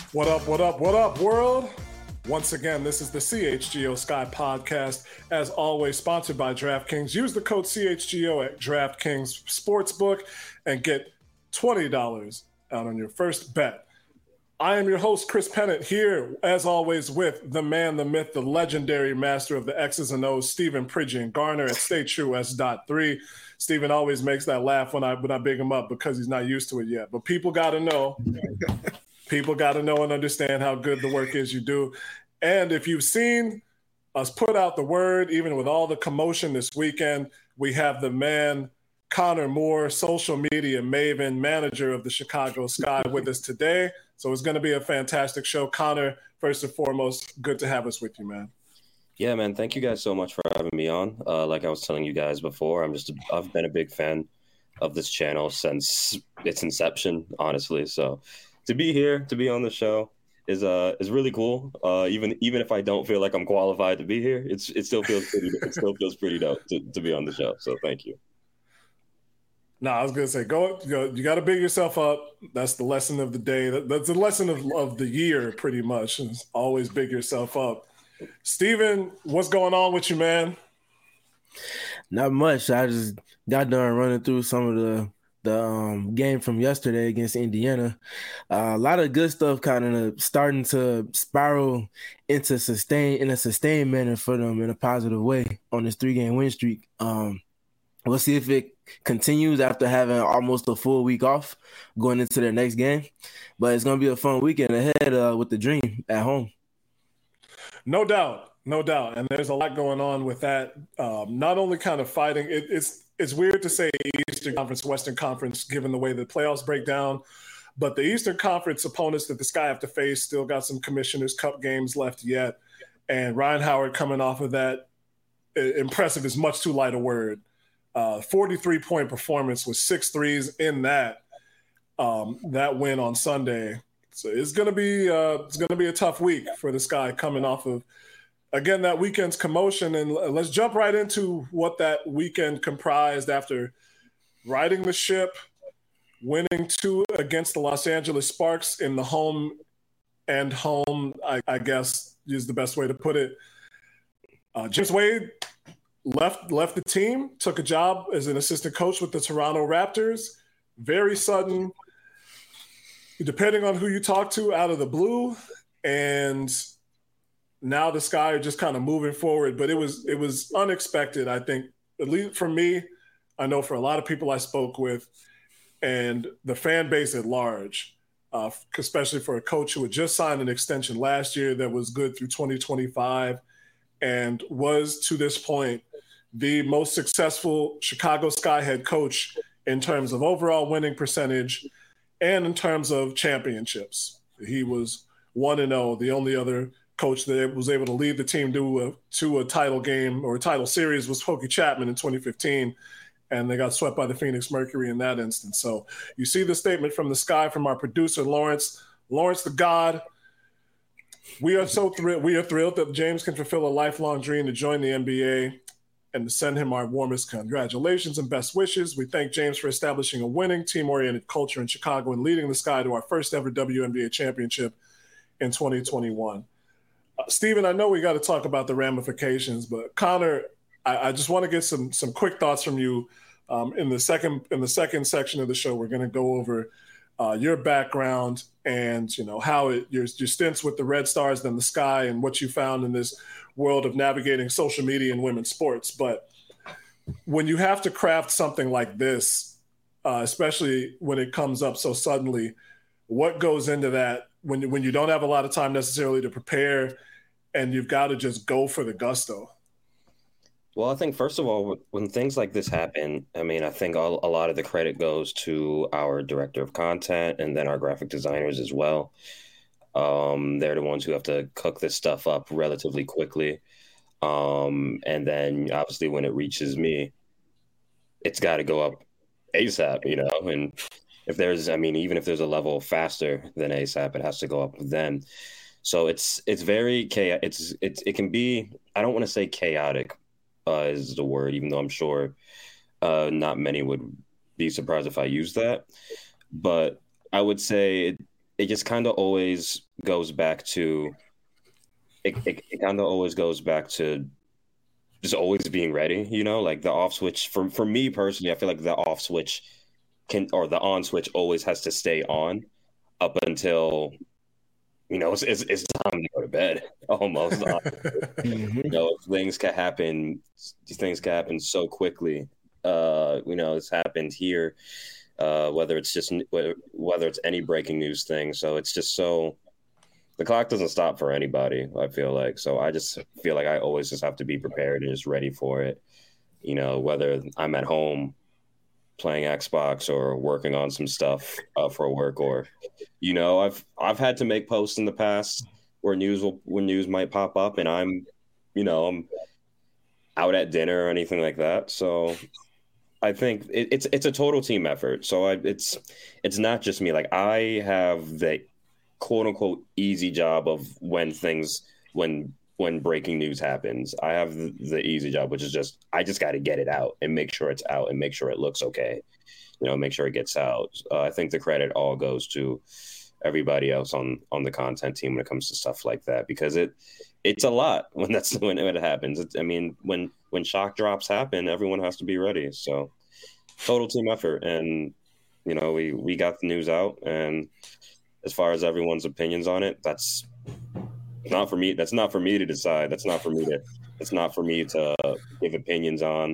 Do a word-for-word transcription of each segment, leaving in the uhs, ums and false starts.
What up, what up, what up, world? Once again, this is the C H G O Sky Podcast, as always, sponsored by DraftKings. Use the code C H G O at DraftKings Sportsbook and get twenty dollars out on your first bet. I am your host, Chris Pennant, here, as always, with the man, the myth, the legendary master of the X's and O's, Stephen Pridgeon Garner at Stay True S dot three. Stephen always makes that laugh when I when I big him up because he's not used to it yet. But people got to know. People got to know and understand how good the work is you do. And if you've seen us put out the word, even with all the commotion this weekend, we have the man, Connor Moore, social media maven, manager of the Chicago Sky, with us today. So it's going to be a fantastic show. Connor, first and foremost, good to have us with you, man. Yeah, man. Thank you guys so much for having me on. Uh, like I was telling you guys before, I'm just a, I've been a big fan of this channel since its inception, honestly. So to be here, to be on the show is uh is really cool. Uh, even even if I don't feel like I'm qualified to be here, it's it still feels pretty it still feels pretty dope to, to be on the show. So thank you. No, I was gonna say, go. go you got to big yourself up. That's the lesson of the day. That, that's the lesson of, of the year, pretty much. Is always big yourself up. Steven, what's going on with you, man? Not much. I just got done running through some of the the um, game from yesterday against Indiana. Uh, a lot of good stuff kind of starting to spiral into sustain in a sustained manner for them in a positive way on this three game win streak. Um, we'll see if it continues after having almost a full week off going into their next game. But it's going to be a fun weekend ahead uh, with the Dream at home. No doubt. No doubt. And there's a lot going on with that. Um, not only kind of fighting, it, it's it's weird to say Eastern Conference, Western Conference, given the way the playoffs break down. But the Eastern Conference opponents that the Sky have to face still got some Commissioner's Cup games left yet. And Ryan Howard coming off of that, impressive is much too light a word. Uh, forty-three point performance with six threes in that um, that win on Sunday. So it's gonna be uh, it's gonna be a tough week for the Sky coming off of, again, that weekend's commotion. And let's jump right into what that weekend comprised after riding the ship, winning two against the Los Angeles Sparks in the home and home, I, I guess is the best way to put it. Uh, James Wade left left the team, took a job as an assistant coach with the Toronto Raptors. Very sudden, depending on who you talk to, out of the blue. And now the Sky are just kind of moving forward. But it was it was unexpected, I think, at least for me. I know for a lot of people I spoke with and the fan base at large, uh, especially for a coach who had just signed an extension last year that was good through twenty twenty-five and was, to this point, the most successful Chicago Sky head coach in terms of overall winning percentage and in terms of championships. He was one and oh, the only other coach that was able to lead the team to a, to a title game or a title series was Hokie Chapman in twenty fifteen, and they got swept by the Phoenix Mercury in that instance. So you see the statement from the Sky from our producer, Lawrence. Lawrence the God. We are so thrilled. We are thrilled that James can fulfill a lifelong dream to join the N B A and to send him our warmest congratulations and best wishes. We thank James for establishing a winning, team-oriented culture in Chicago and leading the Sky to our first ever W N B A championship in twenty twenty-one. Uh, Stephen, I know we got to talk about the ramifications, but Connor, I, I just want to get some some quick thoughts from you. Um, in the second in the second section of the show, we're going to go over uh, your background and you know how it your your stints with the Red Stars and the Sky and what you found in this world of navigating social media and women's sports. But when you have to craft something like this, uh, especially when it comes up so suddenly, what goes into that when when you don't have a lot of time necessarily to prepare and you've got to just go for the gusto? Well, I think, first of all, when things like this happen, I mean, I think all, a lot of the credit goes to our director of content and then our graphic designers as well. Um, they're the ones who have to cook this stuff up relatively quickly. Um, and then, obviously, when it reaches me, it's got to go up ASAP, you know? And if there's, I mean, even if there's a level faster than ASAP, it has to go up then. So it's it's very chaotic. It's, it's, it can be, I don't want to say chaotic, Uh, is the word, even though I'm sure uh, not many would be surprised if I used that. But I would say it, it just kind of always goes back to it. It, it kind of always goes back to just always being ready. You know, like the off switch for for me personally, I feel like the off switch can or the on switch always has to stay on up until you know it's it's, it's time to go to bed almost. Mhm. You know, things can happen. These things can happen so quickly. Uh, you know, it's happened here. Uh, whether it's just whether it's any breaking news thing, so it's just so the clock doesn't stop for anybody. I feel like so. I just feel like I always just have to be prepared and just ready for it. You know, whether I'm at home playing Xbox or working on some stuff uh, for work, or you know, I've I've had to make posts in the past where news will when news might pop up, and I'm, you know, I'm out at dinner or anything like that. So I think it, it's it's a total team effort. So I, it's it's not just me. Like I have the quote unquote easy job of when things when when breaking news happens. I have the, the easy job, which is just I just got to get it out and make sure it's out and make sure it looks okay. You know, make sure it gets out. Uh, I think the credit all goes to everybody else on on the content team when it comes to stuff like that, because it it's a lot when that's when it happens. It's, I mean, when when shock drops happen, everyone has to be ready. So total team effort, and you know, we we got the news out, and as far as everyone's opinions on it, that's not for me. That's not for me to decide. That's not for me to. It's not for me to give opinions on.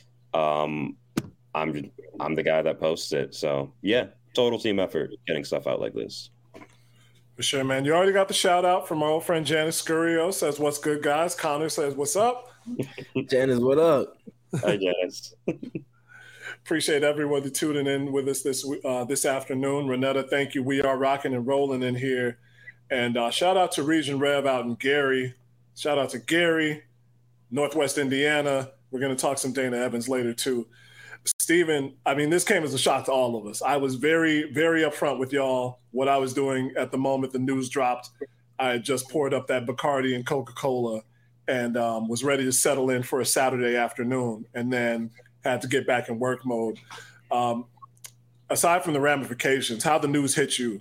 Um, I'm I'm the guy that posts it. So yeah, total team effort getting stuff out like this. For sure, man. You already got the shout out from our old friend Janice Scurio. Says, "What's good, guys?" Connor says, "What's up?" Janice, what up? Hi, Janice. Appreciate everyone tuning in with us this uh, this afternoon. Renetta, thank you. We are rocking and rolling in here. And uh, shout out to Region Rev out in Gary. Shout out to Gary, Northwest Indiana. We're going to talk some Dana Evans later, too. Steven, I mean, this came as a shock to all of us. I was very, very upfront with y'all what I was doing at the moment the news dropped. I had just poured up that Bacardi and Coca-Cola and um, was ready to settle in for a Saturday afternoon, and then had to get back in work mode. Um, aside from the ramifications, how the news hit you?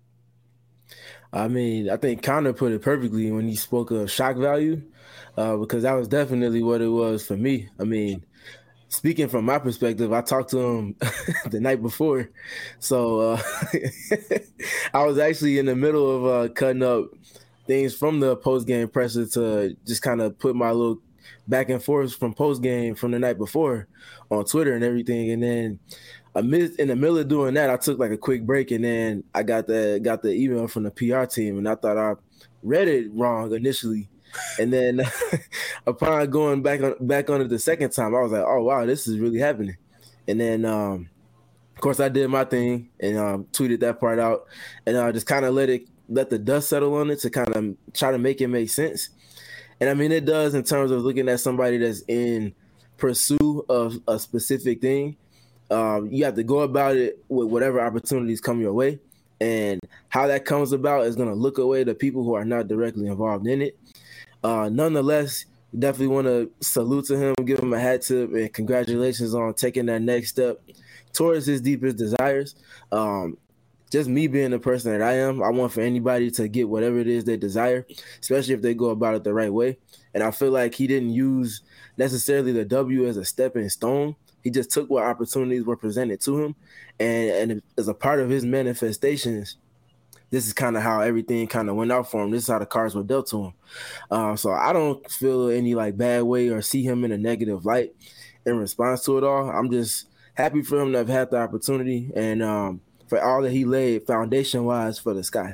I mean, I think Connor put it perfectly when he spoke of shock value, uh, because that was definitely what it was for me. I mean, speaking from my perspective, I talked to him the night before. So uh, I was actually in the middle of uh, cutting up things from the post-game presser to just kind of put my little back and forth from post-game from the night before on Twitter and everything. And then amidst, in the middle of doing that, I took like a quick break, and then I got the got the email from the P R team, and I thought I read it wrong initially. And then upon going back on back on it the second time, I was like, oh, wow, this is really happening. And then, um, of course, I did my thing and um, tweeted that part out, and I uh, just kind of let it let the dust settle on it to kind of try to make it make sense. And I mean, it does in terms of looking at somebody that's in pursuit of a specific thing. Um, you have to go about it with whatever opportunities come your way. And how that comes about is going to look away to people who are not directly involved in it. Uh, nonetheless, definitely want to salute to him, give him a hat tip, and congratulations on taking that next step towards his deepest desires. Um, just me being the person that I am, I want for anybody to get whatever it is they desire, especially if they go about it the right way. And I feel like he didn't use necessarily the W as a stepping stone. He just took what opportunities were presented to him. And, and as a part of his manifestations, this is kind of how everything kind of went out for him. This is how the cards were dealt to him. Uh, so I don't feel any like bad way or see him in a negative light in response to it all. I'm just happy for him to have had the opportunity and um, for all that he laid foundation-wise for the Sky.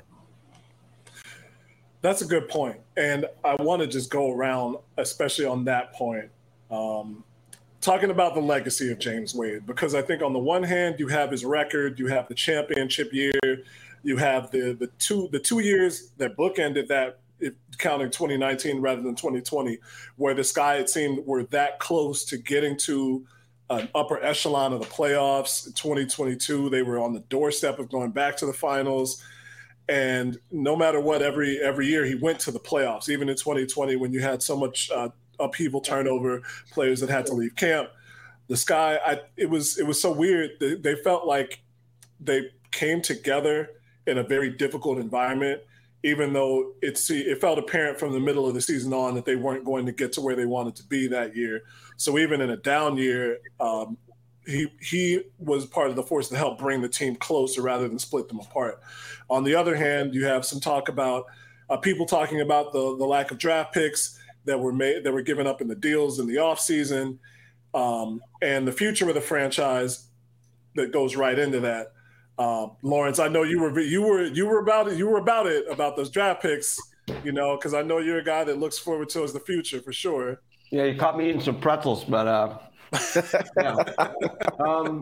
That's a good point. And I want to just go around, especially on that point, um, talking about the legacy of James Wade, because I think on the one hand, you have his record, you have the championship year, you have the the two the two years that bookended that, if counting twenty nineteen rather than twenty twenty, where the Sky, it seemed, were that close to getting to an upper echelon of the playoffs. In twenty twenty-two, they were on the doorstep of going back to the finals. And no matter what, every every year he went to the playoffs, even in twenty twenty when you had so much uh, upheaval, turnover, players that had to leave camp. The Sky, I, it was it was so weird. They, they felt like they came together in a very difficult environment, even though it's, it felt apparent from the middle of the season on that they weren't going to get to where they wanted to be that year. So even in a down year, um, he he was part of the force to help bring the team closer rather than split them apart. On the other hand, you have some talk about uh, people talking about the the lack of draft picks that were made that were given up in the deals in the offseason, um, and the future of the franchise that goes right into that. Uh, Lawrence, I know you were you were you were about it you were about it about those draft picks, you know, because I know you're a guy that looks forward towards the future for sure. Yeah, you caught me eating some pretzels, but uh, yeah. um,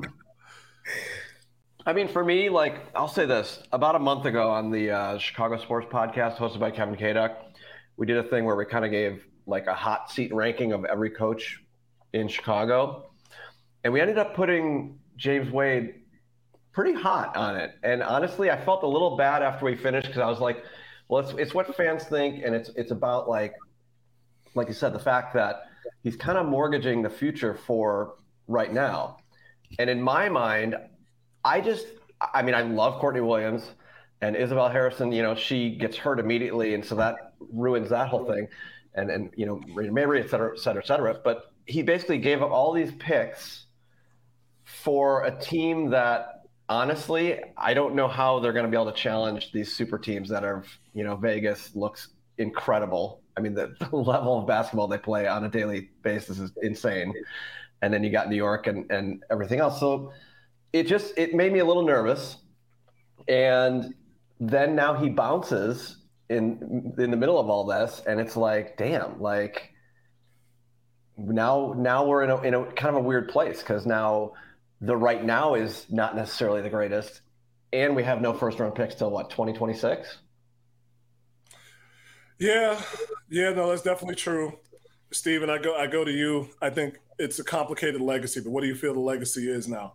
I mean, for me, like I'll say this: about a month ago on the uh, Chicago Sports Podcast hosted by Kevin Kaduk, we did a thing where we kind of gave like a hot seat ranking of every coach in Chicago, and we ended up putting James Wade pretty hot on it. And honestly, I felt a little bad after we finished because I was like, well, it's it's what fans think, and it's it's about like, like you said, the fact that he's kind of mortgaging the future for right now. And in my mind, I just, I mean, I love Courtney Williams and Isabel Harrison. You know, she gets hurt immediately, and so that ruins that whole thing. And and you know, Mary, et cetera, et cetera, et cetera. But he basically gave up all these picks for a team that, honestly, I don't know how they're going to be able to challenge these super teams that are, you know, Vegas looks incredible. I mean, the, the level of basketball they play on a daily basis is insane. And then you got New York and, and everything else. So it just, it made me a little nervous. And then now he bounces in in the middle of all this. And it's like, damn, like now, now we're in a, in a kind of a weird place, because now the right now is not necessarily the greatest. And we have no first round picks till what, twenty twenty-six? Yeah, yeah, no, that's definitely true. Steven, I go I go to you. I think it's a complicated legacy, but what do you feel the legacy is now?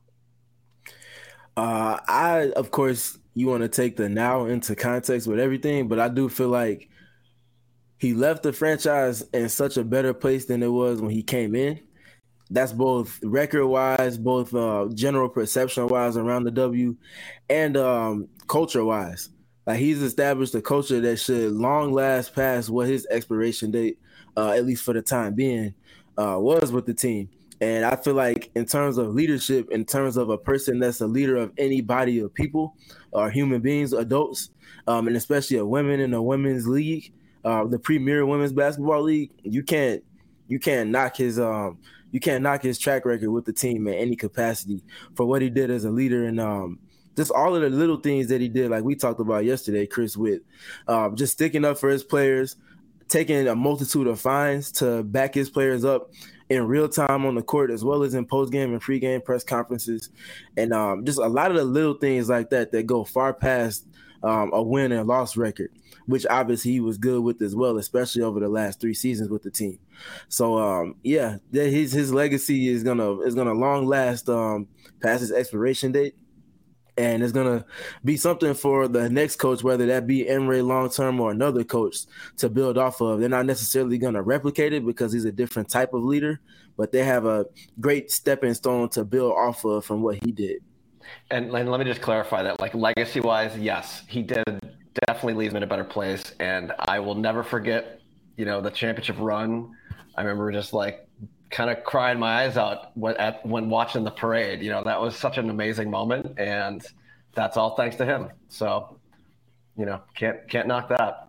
Uh, I, of course, you want to take the now into context with everything, but I do feel like he left the franchise in such a better place than it was when he came in. That's both record-wise, both uh, general perception-wise around the W, and um, culture-wise. Like, he's established a culture that should long last past what his expiration date, uh, at least for the time being, uh, was with the team. And I feel like in terms of leadership, in terms of a person that's a leader of any body of people or human beings, adults, um, and especially a women in a women's league, uh, the premier women's basketball league, you can't you can't knock his um you can't knock his track record with the team in any capacity for what he did as a leader, and um, just all of the little things that he did, like we talked about yesterday, Chris, with um, just sticking up for his players, taking a multitude of fines to back his players up in real time on the court, as well as in post-game and pre-game press conferences. And um, just a lot of the little things like that that go far past um, a win and loss record, which obviously he was good with as well, especially over the last three seasons with the team. So um, yeah, his his legacy is gonna is gonna long last um, past his expiration date. And it's going to be something for the next coach, whether that be Emre long-term or another coach, to build off of. They're not necessarily going to replicate it because he's a different type of leader, but they have a great stepping stone to build off of from what he did. And, and let me just clarify that, like, legacy-wise, yes, he did definitely leave him in a better place. And I will never forget, you know, the championship run. I remember just, like, kind of crying my eyes out when, at, when watching the parade. You know, that was such an amazing moment, and that's all thanks to him. So, you know, can't can't knock that.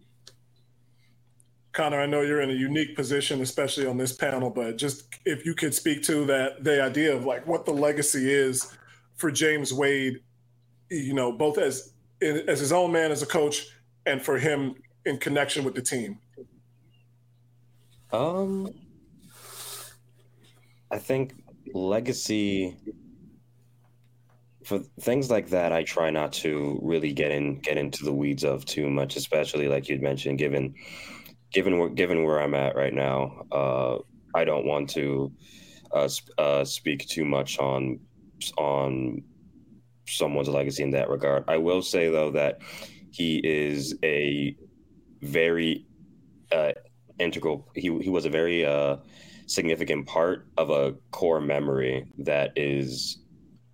Connor, I know you're in a unique position, especially on this panel, but just if you could speak to that, the idea of like what the legacy is for James Wade, you know, both as as his own man as a coach and for him in connection with the team. Um. I think legacy, for things like that, I try not to really get in get into the weeds of too much, especially like you'd mentioned, given given where given where I'm at right now. Uh, I don't want to uh, sp- uh, speak too much on on someone's legacy in that regard. I will say though that he is a very uh, integral. He he was a very uh, significant part of a core memory that is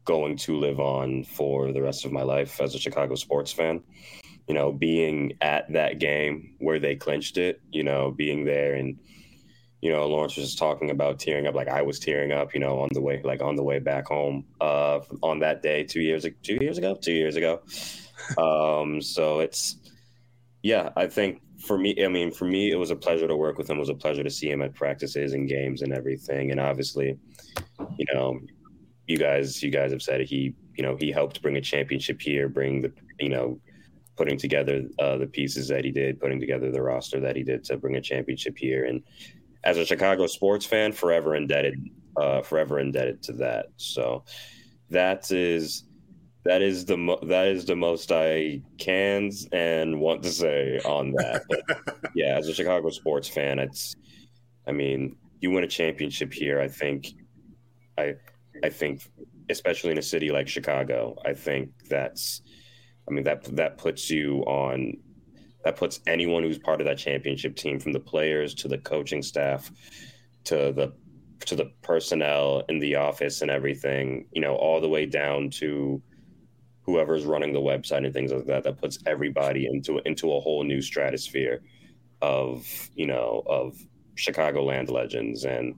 going to live on for the rest of my life as a Chicago sports fan. You know, being at that game where they clinched it, you know, being there and, you know, Lawrence was just talking about tearing up, like I was tearing up, you know, on the way, like on the way back home uh, on that day two years, two years ago, two years ago. Um, so it's, yeah, I think for me, I mean, for me, it was a pleasure to work with him. It was a pleasure to see him at practices and games and everything. And obviously, you know, you guys, you guys have said it. He, you know, he helped bring a championship here, bring the, you know, putting together uh, the pieces that he did, putting together the roster that he did to bring a championship here. And as a Chicago sports fan, forever indebted, uh, forever indebted to that. So that is, that is the mo- that is the most I can and want to say on that. But yeah, as a Chicago sports fan, it's, I mean, you win a championship here. I think, I, I think, especially in a city like Chicago, I think that's, I mean, that that puts you on, that puts anyone who's part of that championship team, from the players to the coaching staff to the to the personnel in the office and everything, you know, all the way down to whoever's running the website and things like that. That puts everybody into into a whole new stratosphere of, you know, of Chicagoland legends. And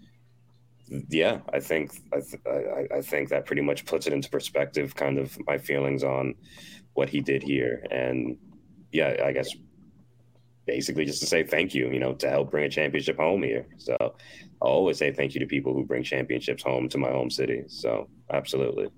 yeah, I think I, th- I I think that pretty much puts it into perspective, kind of my feelings on what he did here. And yeah, I guess basically just to say thank you, you know, to help bring a championship home here. So I'll always say thank you to people who bring championships home to my home city. So absolutely.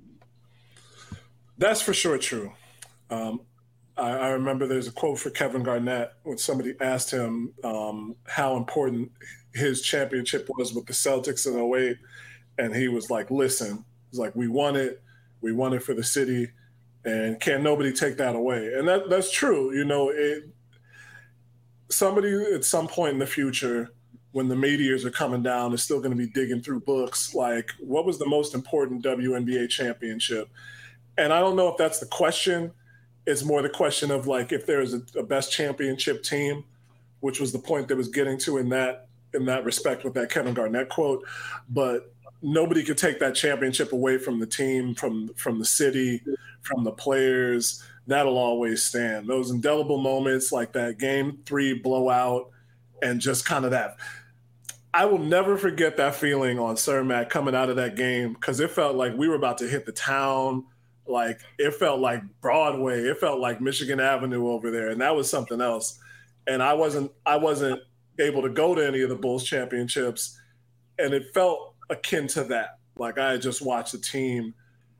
That's for sure true. Um, I, I remember there's a quote for Kevin Garnett when somebody asked him um, how important his championship was with the Celtics in oh eight. And he was like, listen, he's like, we won it. We won it for the city. And can't nobody take that away. And that that's true. You know, it, somebody at some point in the future, when the meteors are coming down, is still going to be digging through books like, what was the most important W N B A championship? And I don't know if that's the question. It's more the question of, like, if there's a, a best championship team, which was the point that was getting to in that in that respect with that Kevin Garnett quote. But nobody could take that championship away from the team, from from the city, from the players. That'll always stand. Those indelible moments like that game three blowout and just kind of that. I will never forget that feeling on Cermak coming out of that game, because it felt like we were about to hit the town. Like, it felt like Broadway. It felt like Michigan Avenue over there. And that was something else. And I wasn't I wasn't able to go to any of the Bulls championships. And it felt akin to that. Like, I had just watched the team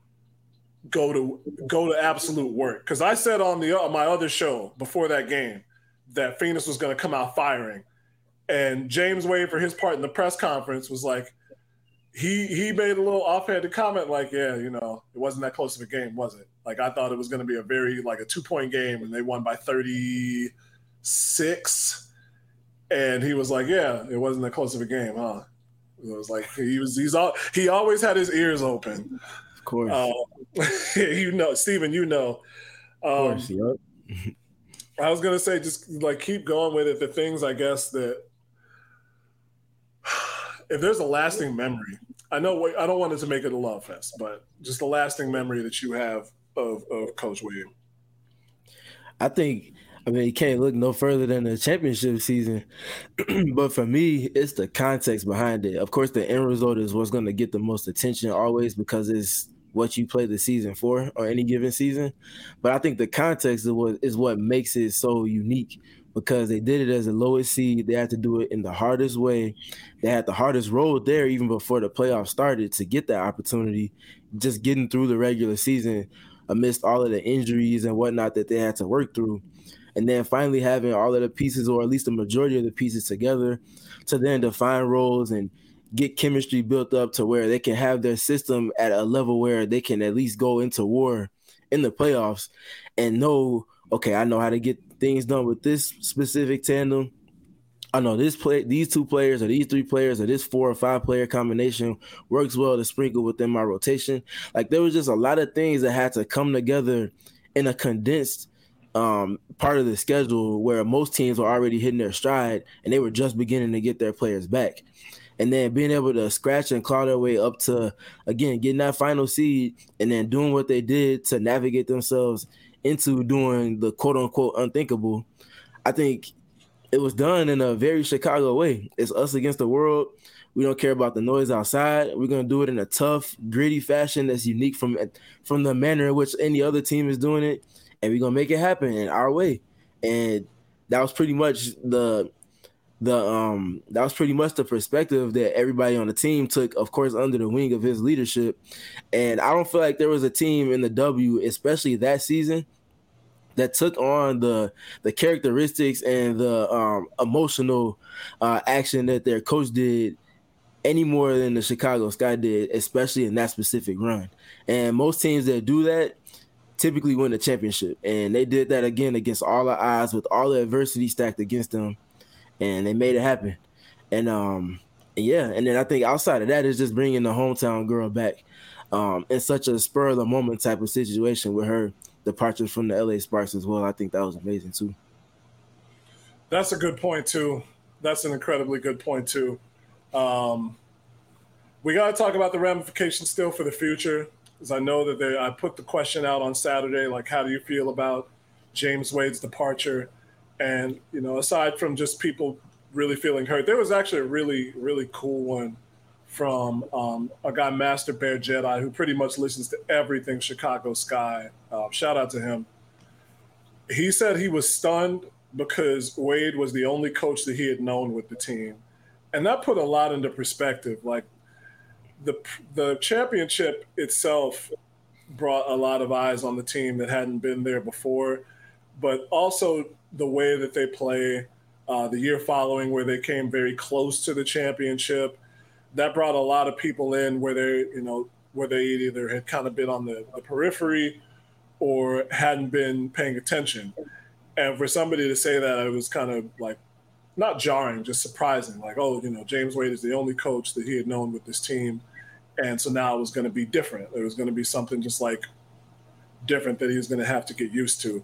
go to go to absolute work. Because I said on the on my other show before that game that Phoenix was going to come out firing. And James Wade, for his part in the press conference, was like, he he made a little offhanded comment like, yeah, you know, it wasn't that close of a game, was it? Like, I thought it was going to be a very, like, a two-point game, and they won by thirty-six. And he was like, yeah, it wasn't that close of a game, huh? It was like, he was he's all he always had his ears open. Of course. Uh, you know, Steven, you know. Um, of course, yep. I was going to say, just, like, keep going with it. The things, I guess, that if there's a lasting memory, I know I don't want it to make it a love fest, but just a lasting memory that you have of, of Coach Wade. I think, I mean, you can't look no further than the championship season. But for me, it's the context behind it. Of course, the end result is what's going to get the most attention always, because it's what you play the season for, or any given season. But I think the context is what, is what makes it so unique, because they did it as the lowest seed. They had to do it in the hardest way. They had the hardest road there even before the playoffs started to get that opportunity, just getting through the regular season amidst all of the injuries and whatnot that they had to work through. And then finally having all of the pieces, or at least the majority of the pieces, together to then define roles and get chemistry built up to where they can have their system at a level where they can at least go into war in the playoffs and know, okay, I know how to get things done with this specific tandem. I know this play, these two players or these three players or this four or five player combination works well to sprinkle within my rotation. Like, there was just a lot of things that had to come together in a condensed um, part of the schedule where most teams were already hitting their stride and they were just beginning to get their players back. and then being able to scratch and claw their way up to, again, getting that final seed and then doing what they did to navigate themselves into doing the quote-unquote unthinkable, I think it was done in a very Chicago way. It's us against the world. We don't care about the noise outside. We're going to do it in a tough, gritty fashion that's unique from, from the manner in which any other team is doing it, and we're going to make it happen in our way. And that was pretty much the the um that was pretty much the perspective that everybody on the team took, of course, under the wing of his leadership. And I don't feel like there was a team in the W, especially that season, that took on the the characteristics and the um, emotional uh, action that their coach did any more than the Chicago Sky did, especially in that specific run. And most teams that do that typically win the championship. And they did that again against all the odds with all the adversity stacked against them. And they made it happen. And um, yeah, and then I think outside of that is just bringing the hometown girl back um, in such a spur of the moment type of situation with her departure from the L A Sparks as well. I think that was amazing too. That's a good point too. That's an incredibly good point too. Um, we got to talk about the ramifications still for the future, because I know that they, I put the question out on Saturday, like, how do you feel about James Wade's departure? And, you know, aside from just people really feeling hurt, there was actually a really, really cool one from um, a guy, Master Bear Jedi, who pretty much listens to everything Chicago Sky. Uh, shout out to him. He said he was stunned because Wade was the only coach that he had known with the team. And that put a lot into perspective. Like, the the championship itself brought a lot of eyes on the team that hadn't been there before, but also the way that they play uh, the year following, where they came very close to the championship, that brought a lot of people in where they, you know, where they either had kind of been on the, the periphery or hadn't been paying attention. And for somebody to say that, it was kind of like, not jarring, just surprising. Like, oh, you know, James Wade is the only coach that he had known with this team. And so now it was going to be different. It was going to be something just like different that he was going to have to get used to.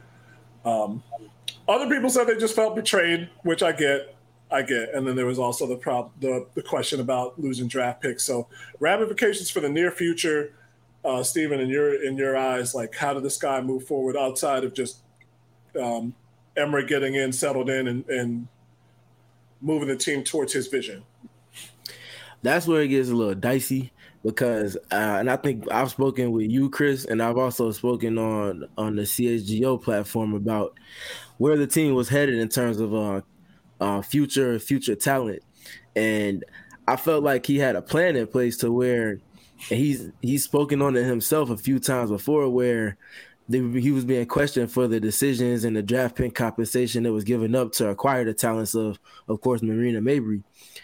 Um, other people said they just felt betrayed, which I get. I get. And then there was also the, prob- the the question about losing draft picks. So ramifications for the near future, uh, Stephen, in your in your eyes, like, how did this guy move forward outside of just um, Emery getting in, settled in, and, and moving the team towards his vision? That's where it gets a little dicey because, uh, and I think I've spoken with you, Chris, and I've also spoken on, on the C H G O platform about where the team was headed in terms of uh, uh, future future talent. And I felt like he had a plan in place to where, and he's he's spoken on it himself a few times before, where they, he was being questioned for the decisions and the draft pick compensation that was given up to acquire the talents of, of course, Marina Mabrey.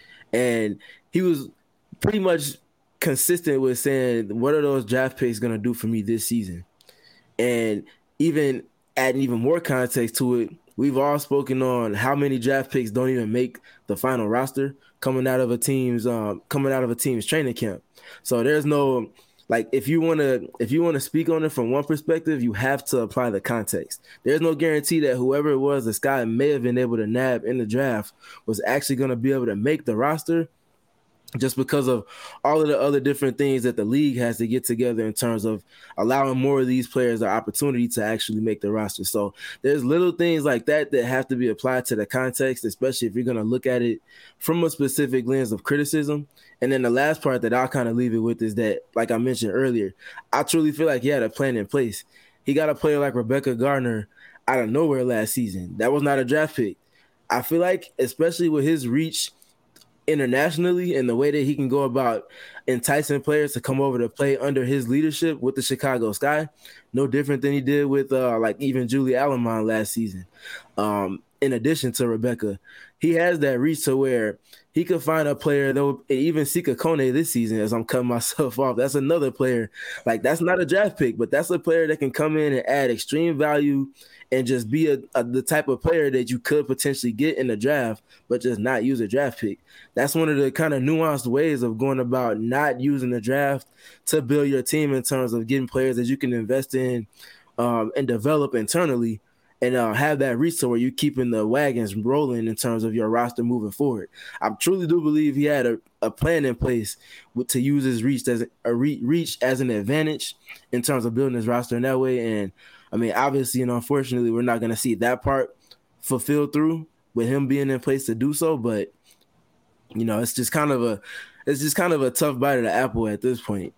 And he was pretty much consistent with saying, what are those draft picks going to do for me this season? And even adding even more context to it, we've all spoken on how many draft picks don't even make the final roster coming out of a team's um, coming out of a team's training camp. So there's no, like, if you want to if you want to speak on it from one perspective, you have to apply the context. There's no guarantee that whoever it was this guy may have been able to nab in the draft was actually going to be able to make the roster, just because of all of the other different things that the league has to get together in terms of allowing more of these players the opportunity to actually make the roster. So there's little things like that that have to be applied to the context, especially if you're going to look at it from a specific lens of criticism. And then the last part that I'll kind of leave it with is that, like I mentioned earlier, I truly feel like he had a plan in place. He got a player like Rebecca Gardner out of nowhere last season. That was not a draft pick. I feel like, especially with his reach internationally and the way that he can go about enticing players to come over to play under his leadership with the Chicago Sky, no different than he did with uh, like even Julie Allemande last season. Um, in addition to Rebecca, he has that reach to where he could find a player that would, even Sika Kone this season, as I'm cutting myself off, that's another player. Like, that's not a draft pick, but that's a player that can come in and add extreme value and just be a, a, the type of player that you could potentially get in the draft, but just not use a draft pick. That's one of the kind of nuanced ways of going about not using the draft to build your team in terms of getting players that you can invest in um, and develop internally. and uh, have that reach to where you're keeping the wagons rolling in terms of your roster moving forward. I truly do believe he had a, a plan in place with, to use his reach as a re, reach as an advantage in terms of building his roster in that way. And I mean, obviously, and unfortunately, we're not going to see that part fulfilled through with him being in place to do so. But you know, it's just kind of a it's just kind of a tough bite of the apple at this point.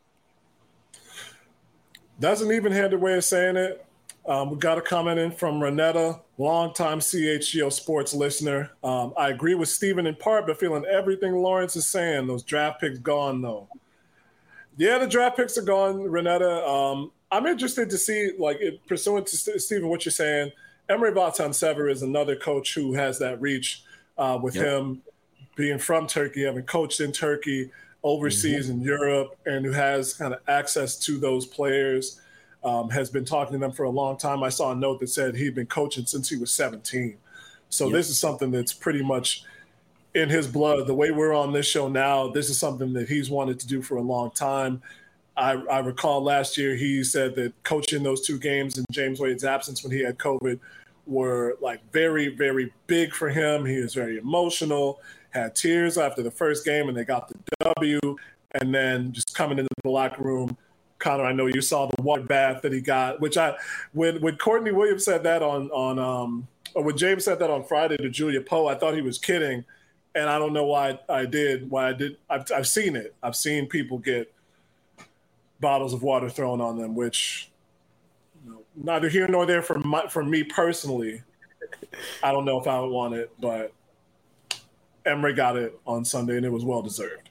That's an even-handed way of saying it. Um, we got a comment in from Renetta, longtime C H G O sports listener. Um, I agree with Steven in part, but feeling everything Lawrence is saying. Those draft picks gone, though. Yeah, the draft picks are gone, Renetta. Um, I'm interested to see, like, it, pursuant to St- Steven, what you're saying, Emery Vatan-Sever is another coach who has that reach uh, with yep. him being from Turkey, having coached in Turkey, overseas mm-hmm. in Europe, and who has kind of access to those players. Um, has been talking to them for a long time. I saw a note that said he'd been coaching since he was seventeen. So yep. this is something that's pretty much in his blood. The way we're on this show now, this is something that he's wanted to do for a long time. I, I recall last year he said that coaching those two games in James Wade's absence when he had COVID were like very, very big for him. He was very emotional, had tears after the first game, and they got the W. And then just coming into the locker room, Connor, I know you saw the water bath that he got, which I, when when Courtney Williams said that on, on um, or when James said that on Friday to Julia Poe, I thought he was kidding. And I don't know why I did, why I did. I've, I've seen it. I've seen people get bottles of water thrown on them, which you know, neither here nor there for my, for me personally. I don't know if I would want it, but Emery got it on Sunday and it was well-deserved.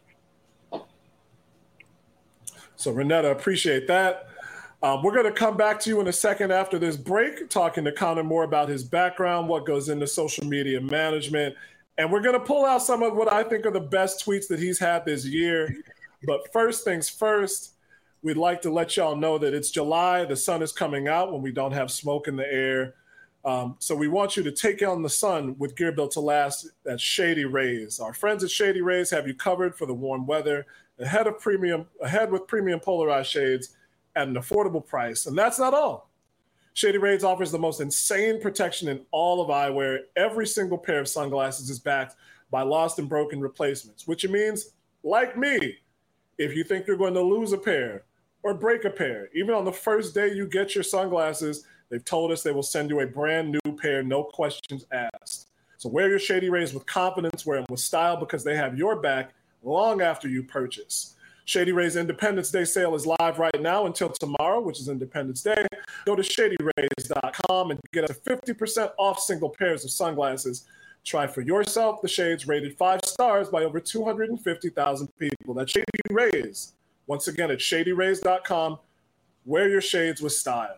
So, Renetta, appreciate that. Um, we're going to come back to you in a second after this break, talking to Connor more about his background, what goes into social media management, and we're going to pull out some of what I think are the best tweets that he's had this year. But first things first, we'd like to let y'all know that it's July. The sun is coming out when we don't have smoke in the air. Um, so we want you to take on the sun with gear built to last at Shady Rays. Our friends at Shady Rays have you covered for the warm weather. Ahead of premium, ahead with premium polarized shades at an affordable price. And that's not all. Shady Rays offers the most insane protection in all of eyewear. Every single pair of sunglasses is backed by lost and broken replacements, which means, like me, if you think you're going to lose a pair or break a pair, even on the first day you get your sunglasses, they've told us they will send you a brand new pair, no questions asked. So wear your Shady Rays with confidence, wear them with style because they have your back long after you purchase. Shady Rays Independence Day sale is live right now until tomorrow, which is Independence Day. Go to shady rays dot com and get up to fifty percent off single pairs of sunglasses. Try for yourself the shades rated five stars by over two hundred fifty thousand people. That's Shady Rays. Once again, at shady rays dot com. Wear your shades with style.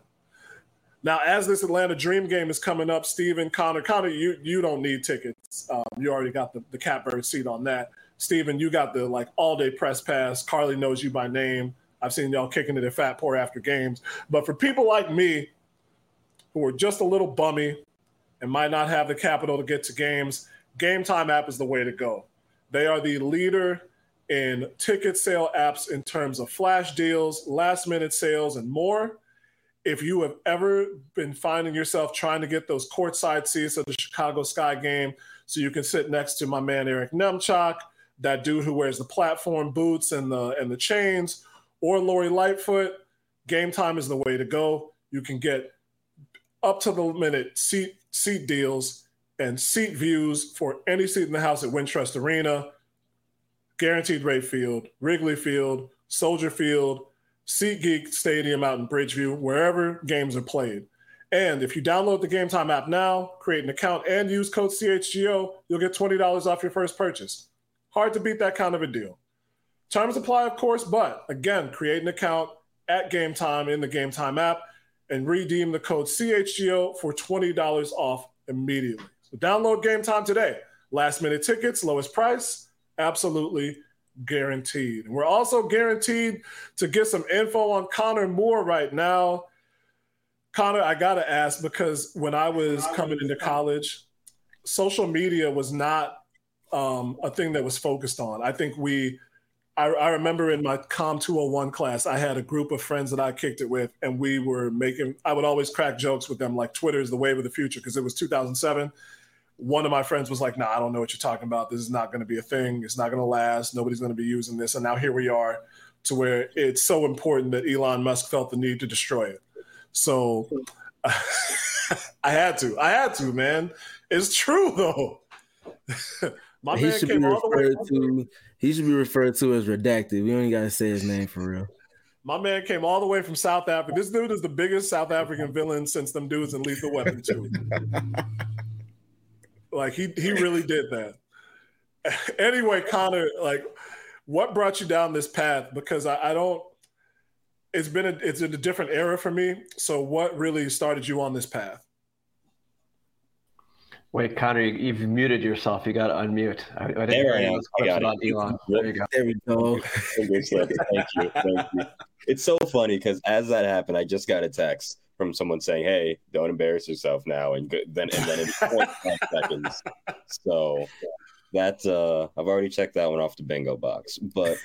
Now, as this Atlanta Dream game is coming up, Steven, Connor, Connor, you, you don't need tickets. Um, you already got the, the catbird seat on that. Steven, you got the like all-day press pass. Carly knows you by name. I've seen y'all kicking it at Fat Poor after games. But for people like me who are just a little bummy and might not have the capital to get to games, Game Time app is the way to go. They are the leader in ticket sale apps in terms of flash deals, last-minute sales, and more. If you have ever been finding yourself trying to get those courtside seats at the Chicago Sky game so you can sit next to my man Eric Nemchok, that dude who wears the platform boots and the and the chains, or Lori Lightfoot, Game Time is the way to go. You can get up to the minute seat seat deals and seat views for any seat in the house at Wintrust Arena, Guaranteed Rate Field, Wrigley Field, Soldier Field, SeatGeek Stadium out in Bridgeview, wherever games are played. And if you download the Game Time app now, create an account, and use code C H G O, you'll get twenty dollars off your first purchase. Hard to beat that kind of a deal. Terms apply, of course, but again, create an account at Game Time in the Game Time app and redeem the code C H G O for twenty dollars off immediately. So download Game Time today. Last minute tickets, lowest price, absolutely guaranteed. And we're also guaranteed to get some info on Connor Moore right now. Connor, I got to ask, because when I was coming into college, social media was not um, a thing that was focused on. I think we I, I remember in my Com two oh one class, I had a group of friends that I kicked it with, and we were making, I would always crack jokes with them, like Twitter is the wave of the future, because it was two thousand seven. One of my friends was like, nah, I don't know what you're talking about. This is not going to be a thing. It's not going to last. Nobody's going to be using this. And now here we are to where it's so important that Elon Musk felt the need to destroy it. So I had to. I had to, man. It's true, though. My he man should came be all the way referred to. He should be referred to as redacted. We only got to say his name for real. My man came all the way from South Africa. This dude is the biggest South African villain since them dudes in Lethal Weapon two. Like he he really did that. Anyway, Connor, like, what brought you down this path? Because I, I don't. It's been a it's in a different era for me. So what really started you on this path? Wait, Connor, you, you've muted yourself. You got to unmute. I, I didn't There hear I any am. of this I got question it. about Elon. There you go. There we go. Thank you. Thank you. It's so funny because as that happened, I just got a text from someone saying, "Hey, don't embarrass yourself now," and go, then and then in twenty-five seconds. So that's uh, I've already checked that one off the bingo box. But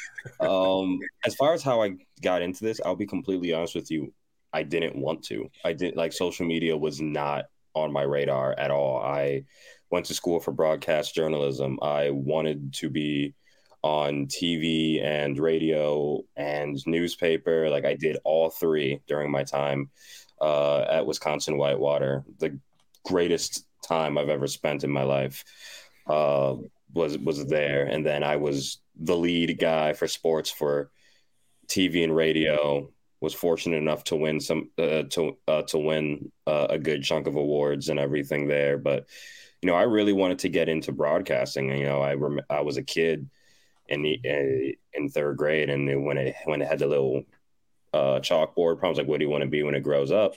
um, as far as how I got into this, I'll be completely honest with you. I didn't want to. I didn't like social media was not on my radar at all. I went to school for broadcast journalism. I wanted to be on T V and radio and newspaper. Like I did all three during my time uh, at Wisconsin Whitewater. The greatest time I've ever spent in my life uh, was was there. And then I was the lead guy for sports for T V and radio. Was fortunate enough to win some uh, to uh, to win uh, a good chunk of awards and everything there. But you know, I really wanted to get into broadcasting. You know, I rem- I was a kid in the uh, in third grade, and when it when it had the little uh, chalkboard problems, like, what do you want to be when it grows up?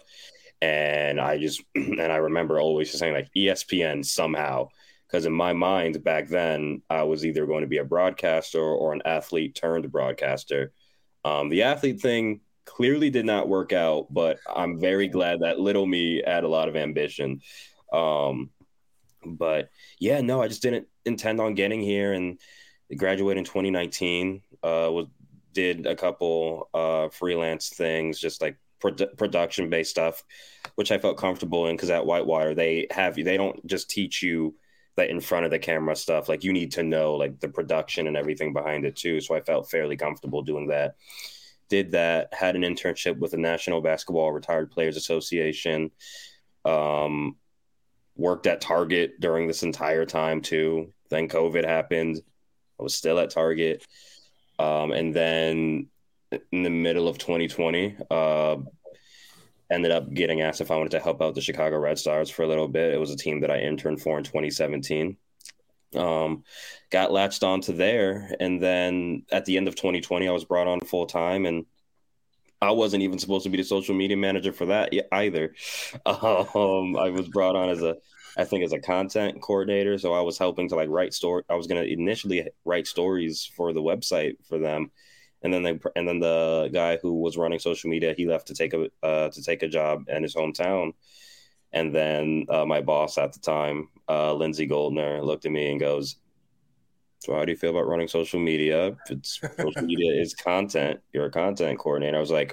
And I just and I remember always just saying like E S P N somehow, because in my mind back then I was either going to be a broadcaster or an athlete turned broadcaster. Um, the athlete thing clearly did not work out, but I'm very glad that little me had a lot of ambition. Um, but yeah, no, I just didn't intend on getting here, and graduated in twenty nineteen. Uh, was did a couple uh, freelance things, just like produ- production based stuff, which I felt comfortable in because at Whitewater they have they don't just teach you that in front of the camera stuff. Like you need to know like the production and everything behind it too. So I felt fairly comfortable doing that. Did that, had an internship with the National Basketball Retired Players Association, um, worked at Target during this entire time too. Then COVID happened. I was still at Target. Um, and then in the middle of twenty twenty, uh, ended up getting asked if I wanted to help out the Chicago Red Stars for a little bit. It was a team that I interned for in twenty seventeen. Um, got latched onto there, and then at the end of twenty twenty, I was brought on full time, and I wasn't even supposed to be the social media manager for that either. Um, I was brought on as a, I think, as a content coordinator, so I was helping to like write story. I was going to initially write stories for the website for them, and then they, and then the guy who was running social media, he left to take a uh, to take a job in his hometown. And then uh, my boss at the time, uh, Lindsay Goldner, looked at me and goes, "So how do you feel about running social media? If it's social media is content. You're a content coordinator." I was like,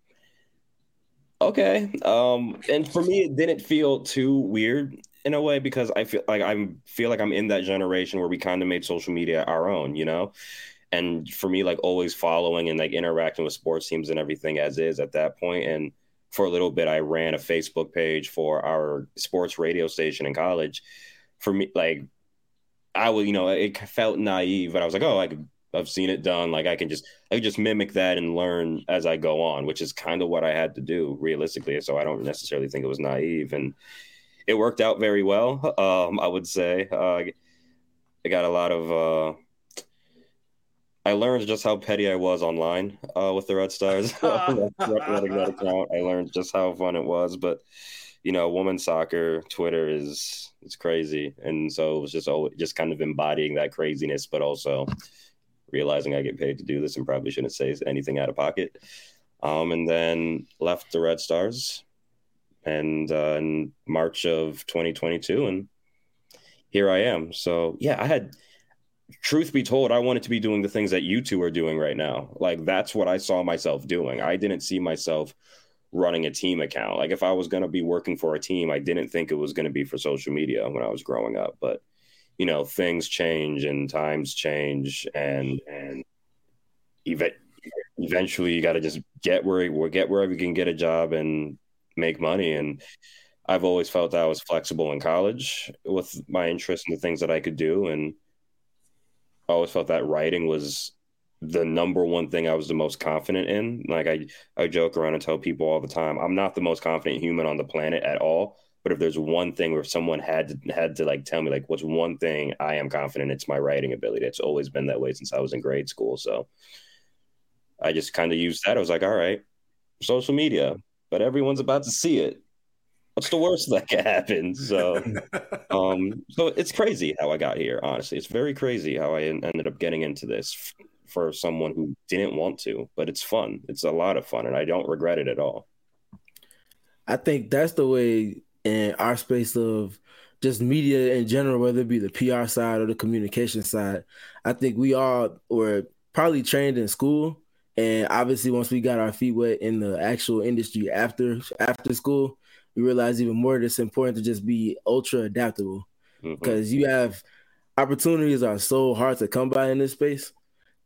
okay. Um, and for me, it didn't feel too weird in a way because I feel like I'm feel like I'm in that generation where we kind of made social media our own, you know. And for me, like always following and like interacting with sports teams and everything as is at that point, and for a little bit, I ran a Facebook page for our sports radio station in college. For me, like, I would, you know, it felt naive, but I was like, oh, I could, I've seen it done. Like, I can just, I could just mimic that and learn as I go on, which is kind of what I had to do realistically. So I don't necessarily think it was naive, and it worked out very well. Um, I would say uh, I got a lot of. Uh, I learned just how petty I was online uh, with the Red Stars. Running that account, I learned just how fun it was. But you know, women's soccer, Twitter is it's crazy, and so it was just always, just kind of embodying that craziness, but also realizing I get paid to do this and probably shouldn't say anything out of pocket. Um, and then left the Red Stars, and uh, in March of twenty twenty-two, and here I am. So yeah, I had. truth be told, I wanted to be doing the things that you two are doing right now. Like, that's what I saw myself doing. I didn't see myself running a team account. Like, if I was going to be working for a team, I didn't think it was going to be for social media when I was growing up. But, you know, things change and times change, and and ev- eventually you got to just get where get wherever you can get a job and make money. And I've always felt I was flexible in college with my interest in the things that I could do, and I always felt that writing was the number one thing I was the most confident in. Like, I, I joke around and tell people all the time, I'm not the most confident human on the planet at all. But if there's one thing where someone had to, had to like tell me, like, what's one thing I am confident, it's my writing ability. It's always been that way since I was in grade school. So I just kind of used that. I was like, all right, social media, but everyone's about to see it. What's the worst that could happen? So, um, so it's crazy how I got here. Honestly, it's very crazy how I ended up getting into this f- for someone who didn't want to. But it's fun. It's a lot of fun, and I don't regret it at all. I think that's the way in our space of just media in general, whether it be the P R side or the communication side. I think we all were probably trained in school, and obviously once we got our feet wet in the actual industry after after school, we realize even more that it's important to just be ultra adaptable, because mm-hmm. you have opportunities are so hard to come by in this space.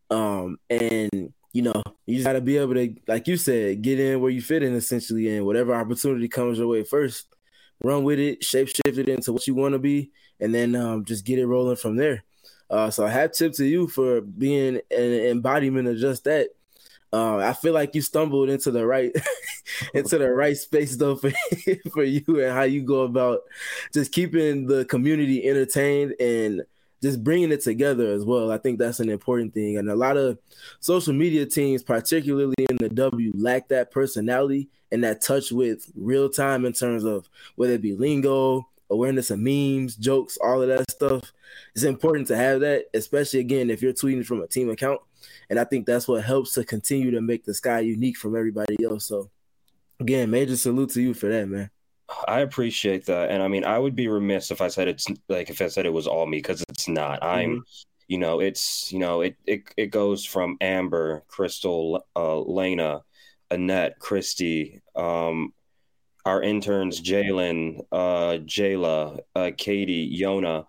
Um, and, you know, you just got to be able to, like you said, get in where you fit in essentially, and whatever opportunity comes your way first, run with it, shape shift it into what you want to be, and then um, just get it rolling from there. Uh, so I hat tip to you for being an embodiment of just that. Uh, I feel like you stumbled into the right into the right space though for for you, and how you go about just keeping the community entertained and just bringing it together as well. I think that's an important thing, and a lot of social media teams, particularly in the W, lack that personality and that touch with real time in terms of whether it be lingo, awareness of memes, jokes, all of that stuff. It's important to have that, especially again if you're tweeting from a team account. And I think that's what helps to continue to make the Sky unique from everybody else. So, again, major salute to you for that, man. I appreciate that. And I mean, I would be remiss if I said it's like if I said it was all me, because it's not. I'm, mm-hmm. you know, it's, you know, it it, it goes from Amber, Crystal, uh, Lena, Annette, Christy, um, our interns, Jalen, uh, Jayla, uh, Katie, Yona,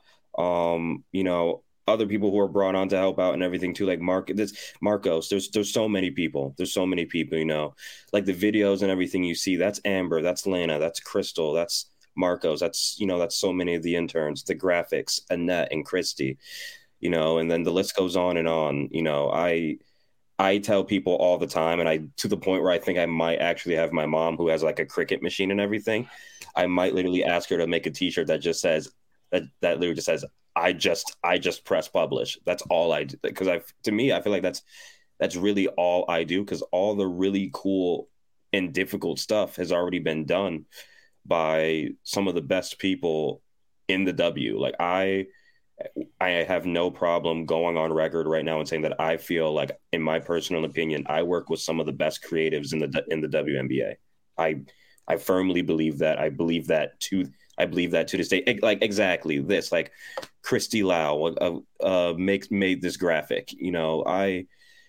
um, you know, other people who are brought on to help out and everything too, like Mark, this Marcos. There's there's so many people. There's so many people, you know, like the videos and everything you see. That's Amber. That's Lana. That's Crystal. That's Marcos. That's, you know, that's so many of the interns. The graphics, Annette and Christy, you know, and then the list goes on and on. You know, I I tell people all the time, and I to the point where I think I might actually have my mom, who has like a Cricut machine and everything. I might literally ask her to make a T-shirt that just says that that literally just says, I just I just press publish. That's all I do. Because I, to me, I feel like that's that's really all I do, because all the really cool and difficult stuff has already been done by some of the best people in the W. Like I I have no problem going on record right now and saying that I feel like, in my personal opinion, I work with some of the best creatives in the in the W N B A. I I firmly believe that. I believe that to I believe that to this day. Like exactly this, like Christy Lau uh, uh, makes made this graphic. You know, I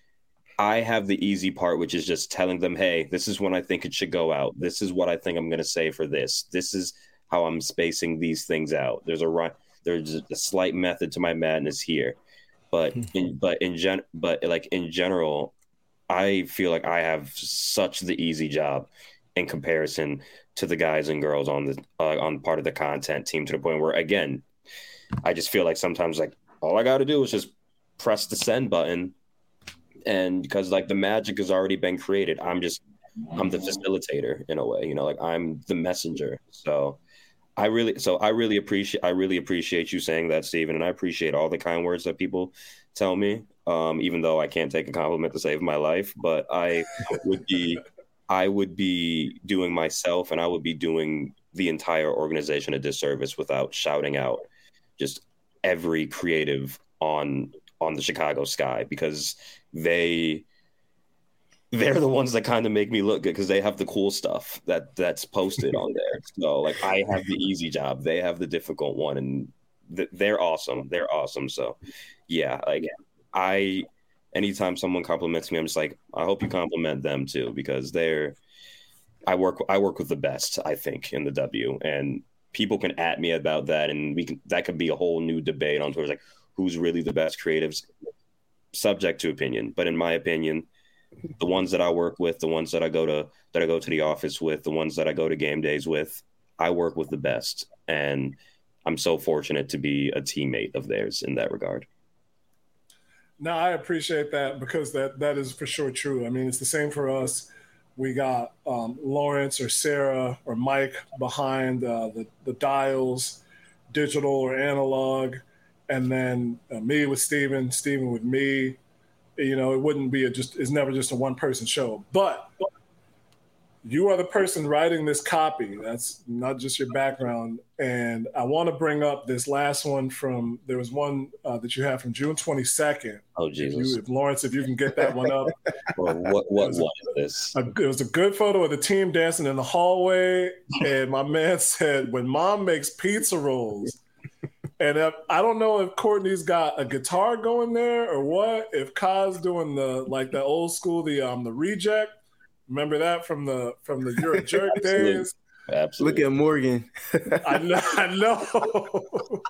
I have the easy part, which is just telling them, hey, this is when I think it should go out. This is what I think I'm going to say for this. This is how I'm spacing these things out. There's a right, there's a slight method to my madness here, but in but in gen but like in general, I feel like I have such the easy job in comparison to the guys and girls on the uh, on part of the content team, to the point where, again, I just feel like sometimes like all I got to do is just press the send button, and because like the magic has already been created, I'm just I'm the facilitator in a way, you know, like I'm the messenger. So I really so I really appreciate I really appreciate you saying that, Steven, and I appreciate all the kind words that people tell me, um, even though I can't take a compliment to save my life, but I would be I would be doing myself and I would be doing the entire organization a disservice without shouting out just every creative on on the Chicago Sky, because they they're the ones that kind of make me look good, because they have the cool stuff that that's posted on there. So like I have the easy job, they have the difficult one, and they're awesome. They're awesome. So, yeah, like I, anytime someone compliments me, I'm just like, I hope you compliment them too, because they're, I work, I work with the best, I think, in the W, and people can at me about that, and we can, that could be a whole new debate on Twitter, like who's really the best creatives, subject to opinion. But in my opinion, the ones that I work with, the ones that I go to, that I go to the office with, the ones that I go to game days with, I work with the best, and I'm so fortunate to be a teammate of theirs in that regard. No, I appreciate that, because that that is for sure true. I mean, it's the same for us. We got um, Lawrence or Sarah or Mike behind uh, the, the dials, digital or analog, and then uh, me with Steven, Steven with me. You know, it wouldn't be a just, it's never just a one person show. But you are the person writing this copy. That's not just your background. And I want to bring up this last one from, there was one uh, that you had from June twenty-second. Oh, Jesus. If, you, if Lawrence, if you can get that one up. Well, what what was, what is this? A, it was a good photo of the team dancing in the hallway. And my man said, when mom makes pizza rolls, and if, I don't know if Courtney's got a guitar going there or what, if Kai's doing the, like the old school, the um the reject. Remember that from the from the You're a Jerk Absolutely. days? Absolutely. Look at Morgan. I know. I know.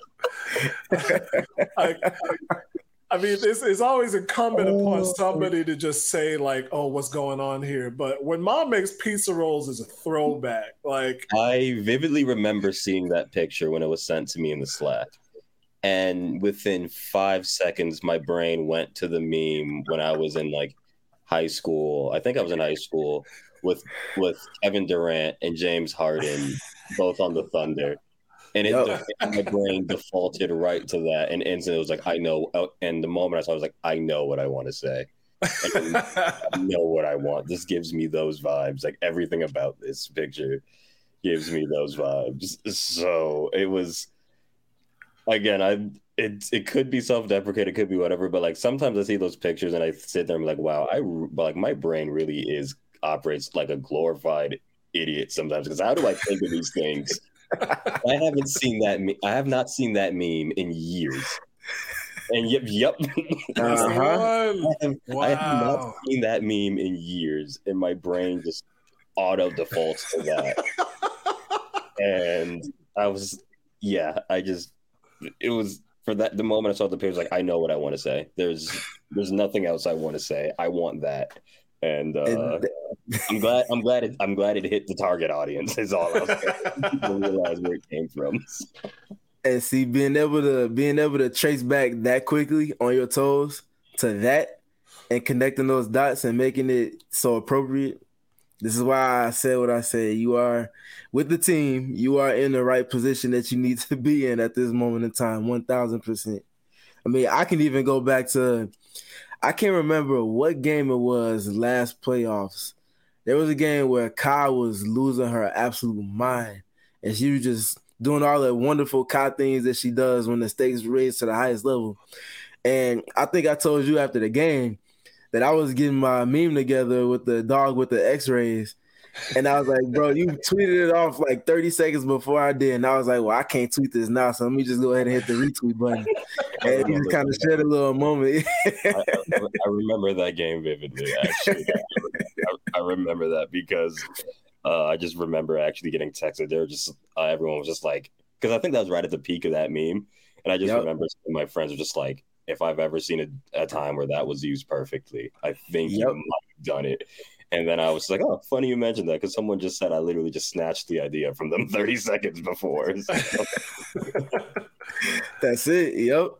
I, I mean, it's, it's always incumbent Oh. upon somebody to just say, like, oh, what's going on here? But when mom makes pizza rolls is a throwback. Like, I vividly remember seeing that picture when it was sent to me in the Slack. And within five seconds, my brain went to the meme when I was in like high school. I think I was in high school with with Kevin Durant and James Harden, both on the Thunder. And it, Yep. my brain defaulted right to that. And instantly it was like, I know. And the moment I saw it, I was like, I know what I want to say. And I know what I want. This gives me those vibes. Like everything about this picture gives me those vibes. So it was, again, I it it could be self-deprecating, it could be whatever, but like sometimes I see those pictures and I sit there and I'm like, wow, I like my brain really is operates like a glorified idiot sometimes, because how do I think of these things? I haven't seen that. Me- I have not seen that meme in years. And yep, yep. that's the Uh-huh. one. I, have, I have not Wow. seen that meme in years, and my brain just auto defaults to that. And I was, yeah, I just, it was for that. The moment I saw the picture, I was like, I know what I want to say. There's, there's nothing else I want to say. I want that. And uh, And I'm glad. I'm glad. It, I'm glad it hit the target audience. Is all I was saying. People realize where it came from. And see, being able to being able to trace back that quickly on your toes to that, and connecting those dots and making it so appropriate. This is why I said what I said. You are with the team. You are in the right position that you need to be in at this moment in time. One thousand percent. I mean, I can even go back to. I can't remember what game it was last playoffs. There was a game where Kai was losing her absolute mind, and she was just doing all the wonderful Kai things that she does when the stakes raised to the highest level. And I think I told you after the game that I was getting my meme together with the dog with the x-rays. And I was like, bro, you tweeted it off like thirty seconds before I did. And I was like, well, I can't tweet this now, so let me just go ahead and hit the retweet button. And you just kind of shared a little moment. I, I, I remember that game vividly. Actually, I, I remember that because uh, I just remember actually getting texted. They were just uh, everyone was just like, because I think that was right at the peak of that meme, and I just Yep. remember my friends were just like, if I've ever seen a, a time where that was used perfectly, I think Yep. you might have done it. And then I was like, oh, funny you mentioned that, because someone just said I literally just snatched the idea from them thirty seconds before. So, That's it. Yep.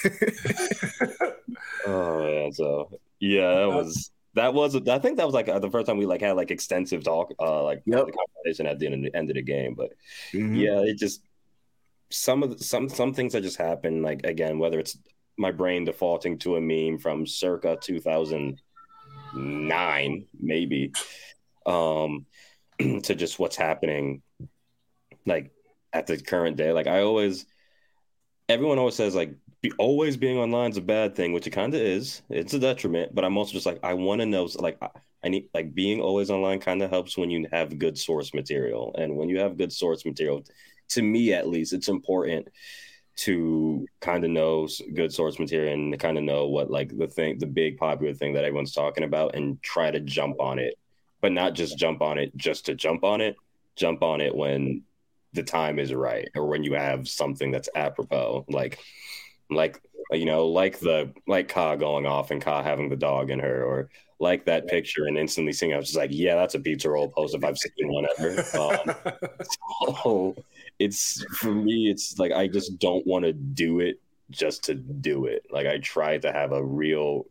oh man, so yeah, that was that was I think that was like uh, the first time we like had like extensive talk, uh, like Yep. the conversation at the end, end of the game. But Mhm. yeah, it just some of the, some some things that just happen. Like again, whether it's my brain defaulting to a meme from circa two thousand nine, maybe, um, to just what's happening, like at the current day. Like I always, everyone always says like be, always being online is a bad thing, which it kind of is. It's a detriment, but I'm also just like I want to know. Like I, I need like being always online kind of helps when you have good source material, and when you have good source material, to me at least, it's important to kind of know good source material and to kind of know what like the thing, the big popular thing that everyone's talking about, and try to jump on it, but not just jump on it just to jump on it. Jump on it when the time is right, or when you have something that's apropos, like like you know, like the like Ka going off and Ka having the dog in her, or like that picture and instantly seeing. I was just like, yeah, that's a pizza roll post if I've seen one ever. Um, so it's for me, it's like I just don't want to do it just to do it. Like I try to have a real,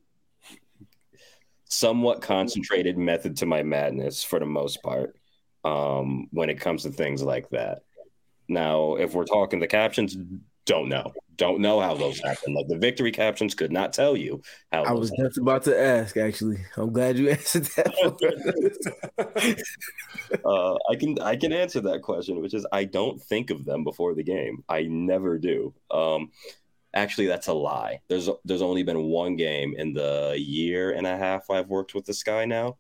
somewhat concentrated method to my madness for the most part. Um, when it comes to things like that. Now, if we're talking the captions, don't know. Don't know how those happen. Like the victory captions could not tell you how. I was happen. just about to ask, actually. I'm glad you answered that. uh, I can I can answer that question, which is I don't think of them before the game. I never do. Um, actually, that's a lie. There's there's only been one game in the year and a half I've worked with the Sky now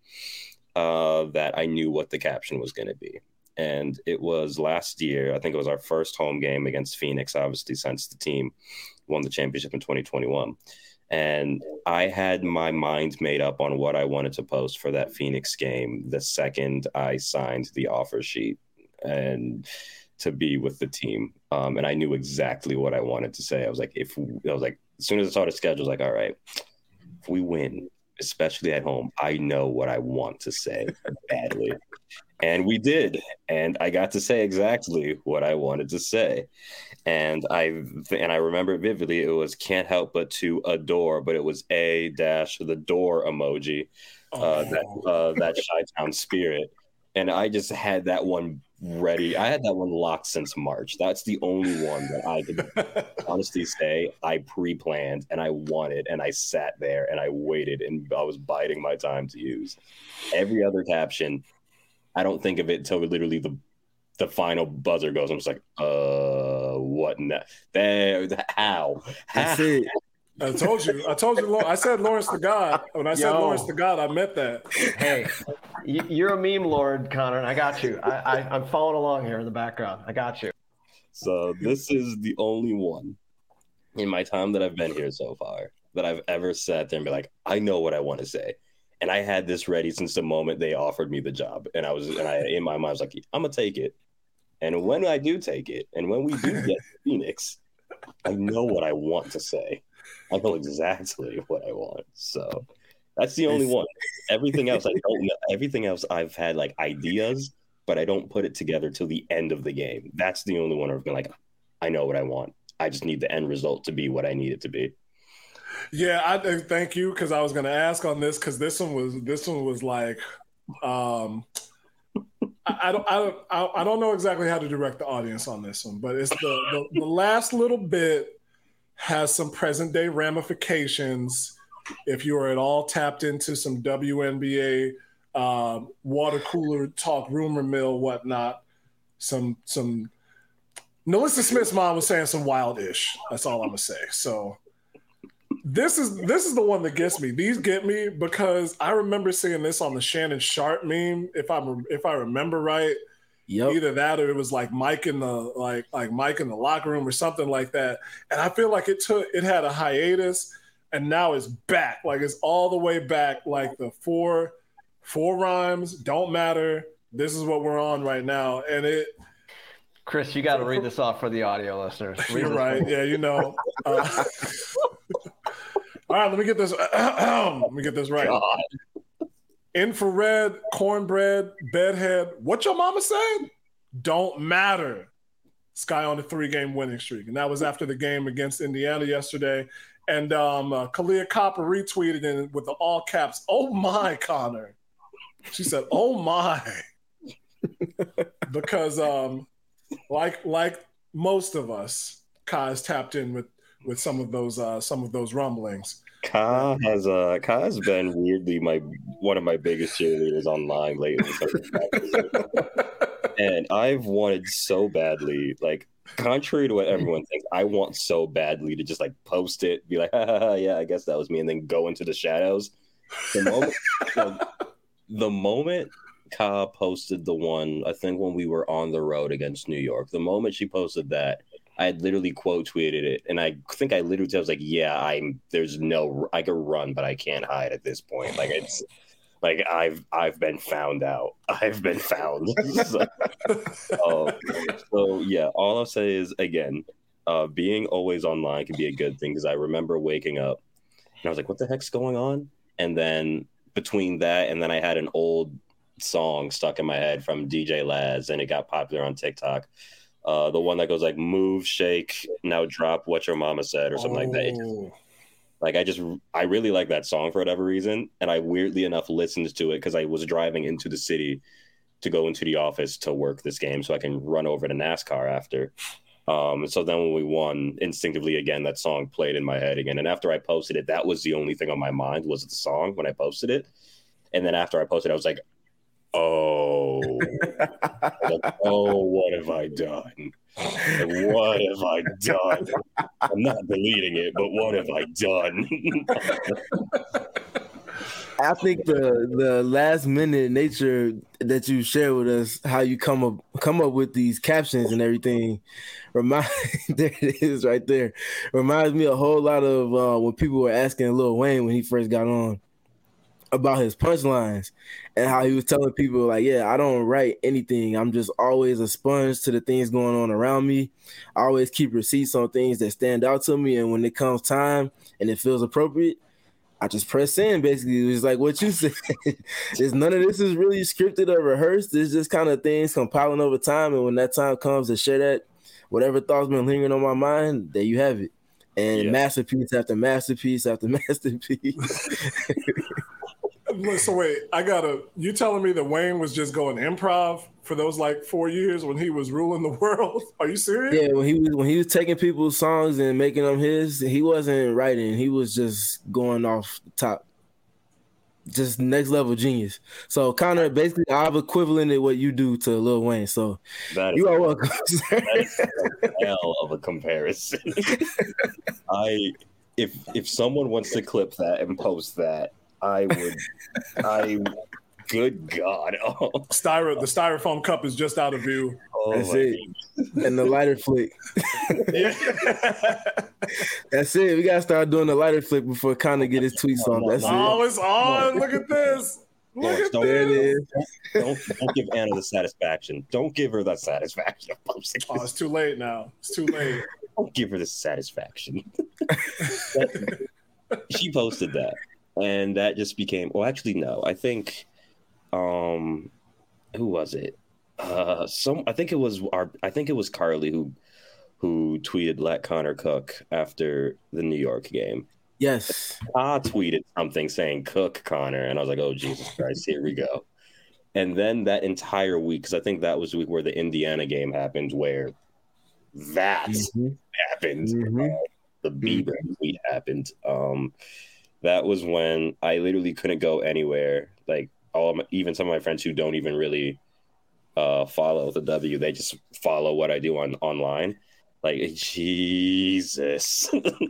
uh, that I knew what the caption was going to be. And it was last year. I think it was our first home game against Phoenix, obviously, since the team won the championship in twenty twenty-one. And I had my mind made up on what I wanted to post for that Phoenix game the second I signed the offer sheet and to be with the team. Um, and I knew exactly what I wanted to say. I was like, if I was like, as soon as I saw the schedule, I was like, all right, if we win, especially at home, I know what I want to say badly. And we did. And I got to say exactly what I wanted to say. And I and I remember vividly, it was can't help but to adore, but it was a dash the door emoji, uh, oh. that uh, that Chi-Town spirit. And I just had that one ready. I had that one locked since March. That's the only one that I could honestly say I pre-planned and I wanted, and I sat there and I waited and I was biding my time to use. Every other caption, I don't think of it until literally the the final buzzer goes. I'm just like, uh, what? Na- there, how? How? I told you. I told you. I said Lawrence the God. When I said Yo. Lawrence the God, I meant that. Hey, you're a meme lord, Connor, and I got you. I, I, I'm following along here in the background. I got you. So this is the only one in my time that I've been here so far that I've ever sat there and be like, I know what I want to say. And I had this ready since the moment they offered me the job. And I was, and I, in my mind, I was like, I'm going to take it. And when I do take it, and when we do get to Phoenix, I know what I want to say. I know exactly what I want. So that's the only one. Everything else, I don't know. Everything else, I've had like ideas, but I don't put it together till the end of the game. That's the only one where I've been like, I know what I want. I just need the end result to be what I need it to be. Yeah, I thank you, because I was going to ask on this, because this one was this one was like, um, I, I don't I don't I don't know exactly how to direct the audience on this one, but it's the the, the last little bit has some present day ramifications. If you are at all tapped into some W N B A um, water cooler talk, rumor mill, whatnot, some some. Nalissa Smith's mom was saying some wild-ish. That's all I'm gonna say. So. This is this is the one that gets me. These get me because I remember seeing this on the Shannon Sharp meme, if I if I remember right. Yep. Either that or it was like Mike in the like like Mike in the locker room or something like that. And I feel like it took it had a hiatus and now it's back. Like it's all the way back. Like the four four rhymes don't matter. This is what we're on right now. And it Chris, you got to read this off for the audio listeners. Read You're right. Yeah, you know. Uh, all right, let me get this. Let me get this right. God. Infrared, cornbread, bedhead. What your mama said? Don't matter. Sky on the three-game winning streak, and that was after the game against Indiana yesterday. And um, uh, Kalia Copper retweeted in with the all caps. Oh my, Connor. She said, "Oh my," because um, like like most of us, Kai is tapped in with. with some of those uh, some of those rumblings. Ka has uh Ka has been weirdly my one of my biggest cheerleaders online lately. And I've wanted so badly, like contrary to what everyone thinks, I want so badly to just like post it, be like, ha, ha, ha, yeah, I guess that was me, and then go into the shadows. The moment, like, the moment Ka posted the one, I think when we were on the road against New York, the moment she posted that, I had literally quote tweeted it, and I think I literally I was like, "Yeah, I'm. There's no. I could run, but I can't hide at this point. Like it's like I've I've been found out. I've been found." so, uh, so yeah, all I'll say is again, uh, being always online can be a good thing because I remember waking up and I was like, "What the heck's going on?" And then between that and then I had an old song stuck in my head from D J Laz, and it got popular on TikTok. Uh, the one that goes like "Move, shake, now drop what your mama said" or something oh. like that. It just, like I just, I really like that song for whatever reason, and I weirdly enough listened to it because I was driving into the city to go into the office to work this game, so I can run over to NASCAR after. Um, so then when we won, instinctively again that song played in my head again, and after I posted it, that was the only thing on my mind was the song when I posted it, and then after I posted, I was like, oh, like, oh, what have I done? Like, what have I done? I'm not deleting it, but what have I done? I think the the last minute nature that you share with us, how you come up come up with these captions and everything, remind there it is right there. Reminds me a whole lot of uh, when people were asking Lil Wayne when he first got on about his punchlines and how he was telling people like, yeah, I don't write anything. I'm just always a sponge to the things going on around me. I always keep receipts on things that stand out to me. And when it comes time and it feels appropriate, I just press in. Basically, it's like what you said. It's none of this is really scripted or rehearsed. It's just kind of things compiling over time. And when that time comes to share that, whatever thoughts been lingering on my mind, there you have it. And yeah. masterpiece after masterpiece after masterpiece. So wait, I gotta. You telling me that Wayne was just going improv for those like four years when he was ruling the world? Are you serious? Yeah, when he was when he was taking people's songs and making them his, he wasn't writing. He was just going off the top, just next level genius. So Connor, basically, I've equivalented what you do to Lil Wayne. So that you is, are welcome. That is a hell of a comparison. I if if someone wants to clip that and post that. I would, I, good God. Oh. Styro, the styrofoam cup is just out of view. Oh, that's it. God. And the lighter flick. Yeah. That's it. We got to start doing the lighter flick before Connor get his tweets on. That's oh, it. It's on. Look at this. Look Lawrence, at don't, this. Don't, don't give Anna the satisfaction. Don't give her that satisfaction of posting Oh, it's too late now. It's too late. Don't give her the satisfaction. She posted that. And that just became, well, actually, no, I think, um, who was it? Uh, some, I think it was our, I think it was Carly who, who tweeted "Let Connor cook" after the New York game. Yes. I tweeted something saying "Cook Connor," and I was like, "Oh Jesus Christ, here we go." And then that entire week, because I think that was the week where the Indiana game happened, where that mm-hmm. happened, mm-hmm. uh, the Bieber mm-hmm. tweet happened. Um. That was when I literally couldn't go anywhere. Like all, my, even some of my friends who don't even really uh, follow the W, they just follow what I do on online. Like Jesus,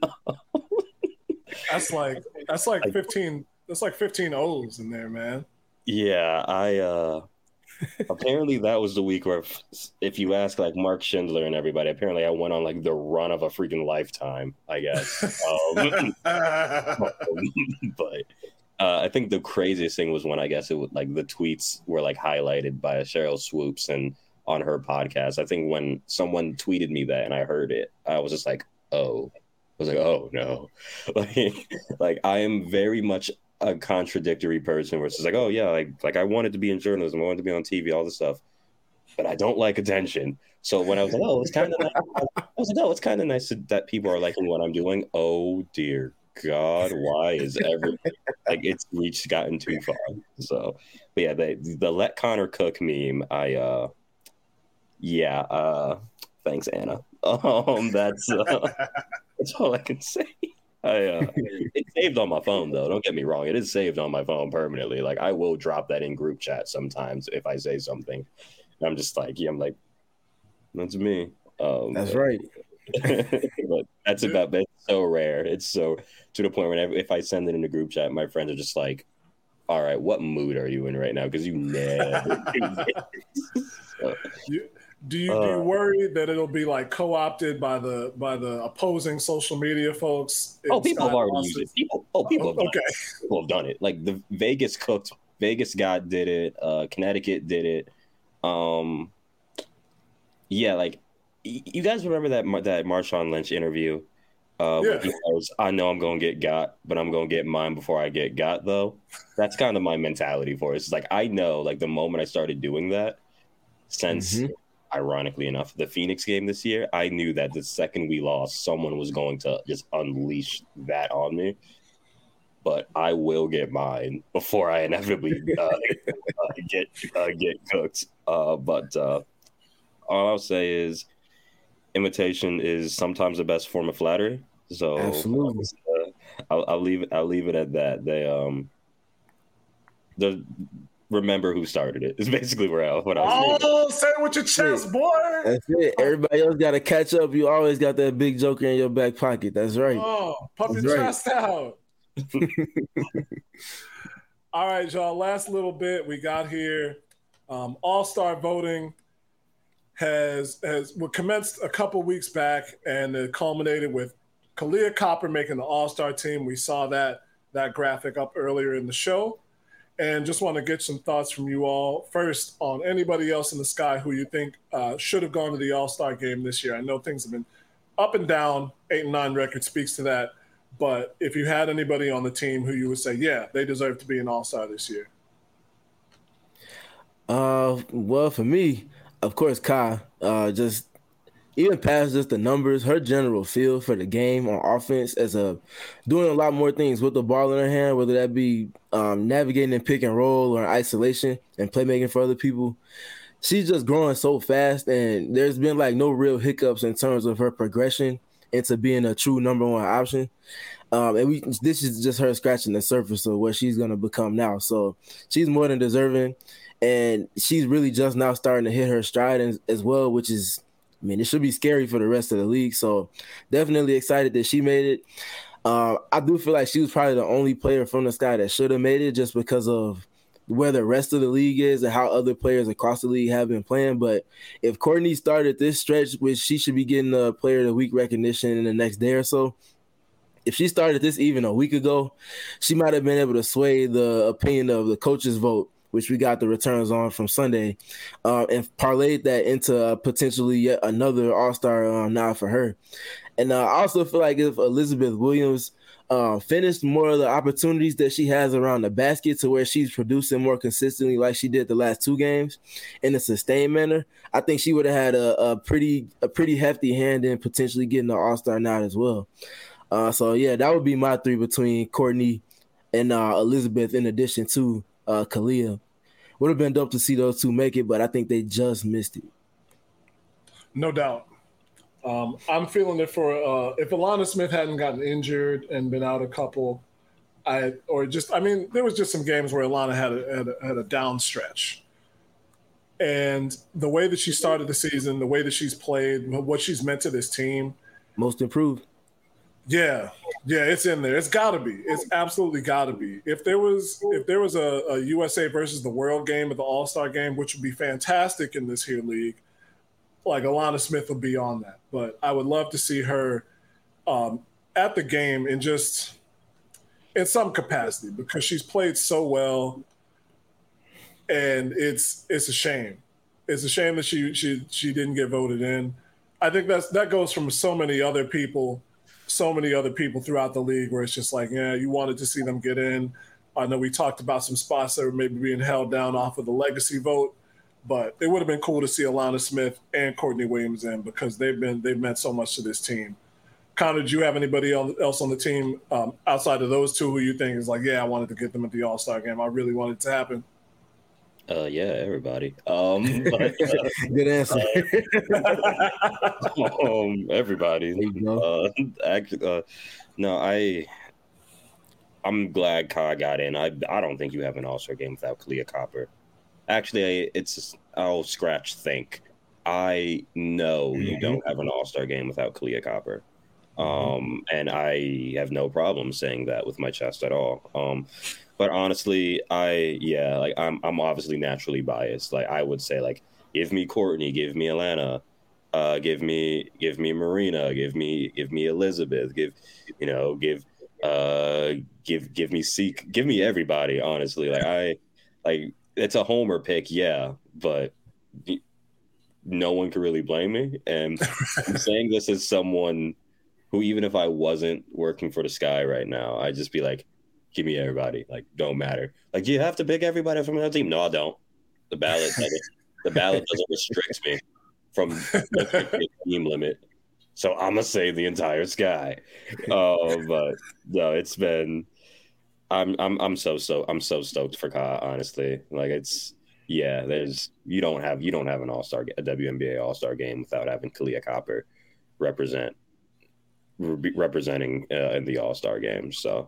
that's like that's like fifteen. That's like fifteen O's in there, man. Yeah, I. Uh, apparently, that was the week where, if, if you ask like Mark Schindler and everybody, apparently I went on like the run of a freaking lifetime, I guess. Um, but uh, I think the craziest thing was when I guess it was like the tweets were like highlighted by Cheryl Swoops and on her podcast. I think when someone tweeted me that and I heard it, I was just like, oh, I was like, oh no, like, like I am very much a contradictory person where it's just like, oh yeah, like like I wanted to be in journalism, I wanted to be on T V, all this stuff, but I don't like attention. So when I was like, oh, it's kind of nice, I was like, oh, it's kind of nice that people are liking what I'm doing. Oh dear God, why is everything like it's reached gotten too far? So, but yeah, the the Let Connor Cook meme, I uh, yeah, uh, thanks Anna. Um, that's uh, that's all I can say. I, uh, it's saved on my phone, though. Don't get me wrong. It is saved on my phone permanently. Like, I will drop that in group chat sometimes if I say something. And I'm just like, yeah, I'm like, that's me. Um, that's right. But that's about, that's so rare. It's so, to the point where if I send it in the group chat, my friends are just like, all right, what mood are you in right now? Because you never do this. So. You, Do you uh, do you worry that it'll be like co-opted by the by the opposing social media folks? Oh, people have already used it. People, oh, people have done okay. it. People have done it. Like the Vegas cooked. Vegas got did it. Uh, Connecticut did it. Um, yeah, like you guys remember that that Marshawn Lynch interview? Uh, yeah. Where he goes, I know I'm gonna get got, but I'm gonna get mine before I get got. Though that's kind of my mentality for it. It's like I know, like the moment I started doing that, since. Mm-hmm. Ironically enough, the Phoenix game this year, I knew that the second we lost, someone was going to just unleash that on me. But I will get mine before I inevitably uh, uh, get uh, get cooked. Uh, but uh, all I'll say is, imitation is sometimes the best form of flattery. So absolutely, uh, I'll, I'll leave I'll leave it at that. They um the. Remember who started it is basically where I, what I was oh say it with your chest, boy. That's it. Everybody else got to catch up. You always got that big joker in your back pocket. That's right. Oh, pump That's your right. chest out. All right, y'all, last little bit we got here. um, all-star voting has has well, commenced a couple weeks back, and it culminated with Kahleah Copper making the all-star team. We saw that that graphic up earlier in the show. And just want to get some thoughts from you all. First, on anybody else in the sky who you think uh, should have gone to the All-Star game this year. I know things have been up and down. Eight and nine record speaks to that. But if you had anybody on the team who you would say, yeah, they deserve to be an All-Star this year. Uh, well, for me, of course, Kai. Uh, just even past just the numbers, her general feel for the game on offense as a doing a lot more things with the ball in her hand, whether that be um, navigating in pick and roll or isolation and playmaking for other people. She's just growing so fast, and there's been like no real hiccups in terms of her progression into being a true number one option. Um, and we this is just her scratching the surface of what she's going to become now. So she's more than deserving, and she's really just now starting to hit her stride as, as well, which is, I mean, it should be scary for the rest of the league. So definitely excited that she made it. Uh, I do feel like she was probably the only player from the sky that should have made it just because of where the rest of the league is and how other players across the league have been playing. But if Courtney started this stretch, which she should be getting the player of the week recognition in the next day or so, if she started this even a week ago, she might have been able to sway the opinion of the coaches' vote, which we got the returns on from Sunday, uh, and parlayed that into uh, potentially yet another All-Star uh, nod for her. And uh, I also feel like if Elizabeth Williams uh, finished more of the opportunities that she has around the basket to where she's producing more consistently like she did the last two games in a sustained manner, I think she would have had a, a pretty a pretty hefty hand in potentially getting the All-Star nod as well. Uh, so, yeah, that would be my three between Courtney and uh, Elizabeth in addition to uh, Kahleah. Would have been dope to see those two make it, but I think they just missed it. No doubt. Um, I'm feeling it for uh, if Alana Smith hadn't gotten injured and been out a couple, I or just I mean there was just some games where Alana had a, had a, had a down stretch, and the way that she started the season, the way that she's played, what she's meant to this team, most improved. Yeah, yeah, it's in there. It's got to be. It's absolutely got to be. If there was, if there was a, a U S A versus the world game or the All-Star game, which would be fantastic in this here league, like Alana Smith would be on that. But I would love to see her um, at the game in just in some capacity because she's played so well, and it's it's a shame. It's a shame that she she she didn't get voted in. I think that's that goes from so many other people. so many other people throughout the league where it's just like, yeah, you wanted to see them get in. I know we talked about some spots that were maybe being held down off of the legacy vote, but it would have been cool to see Alana Smith and Courtney Williams in because they've been they've meant so much to this team. Connor, do you have anybody else on the team um, outside of those two who you think is like, yeah, I wanted to get them at the All-Star game. I really wanted it to happen. Uh, yeah, everybody. Um, but, uh, Good answer. Uh, um, everybody. Uh, actually, uh, no, I, I'm glad Kai got in. I, I don't think you have an All-Star game without Kahleah Copper. Actually, I, it's I'll scratch think. I know mm-hmm. you don't have an All-Star game without Kahleah Copper. Um, and I have no problem saying that with my chest at all. Um, But honestly, I yeah, like I'm I'm obviously naturally biased. Like I would say, like give me Courtney, give me Alana, uh, give me give me Marina, give me give me Elizabeth, give you know give uh give give me Seek, give me everybody. Honestly, like I like it's a homer pick, yeah, but no one can really blame me. And I'm saying this as someone who, even if I wasn't working for the Sky right now, I'd just be like, give me everybody. Like, don't matter. Like, do you have to pick everybody from another team? No, I don't. The ballot doesn't, the ballot doesn't restrict me from the team limit. So I'm gonna say the entire Sky. Oh, uh, but no, it's been. I'm I'm I'm so so I'm so stoked for Ka. Honestly, like it's yeah. There's you don't have you don't have an All Star a W N B A All Star game without having Kahleah Copper represent re- representing uh, in the All Star game. So.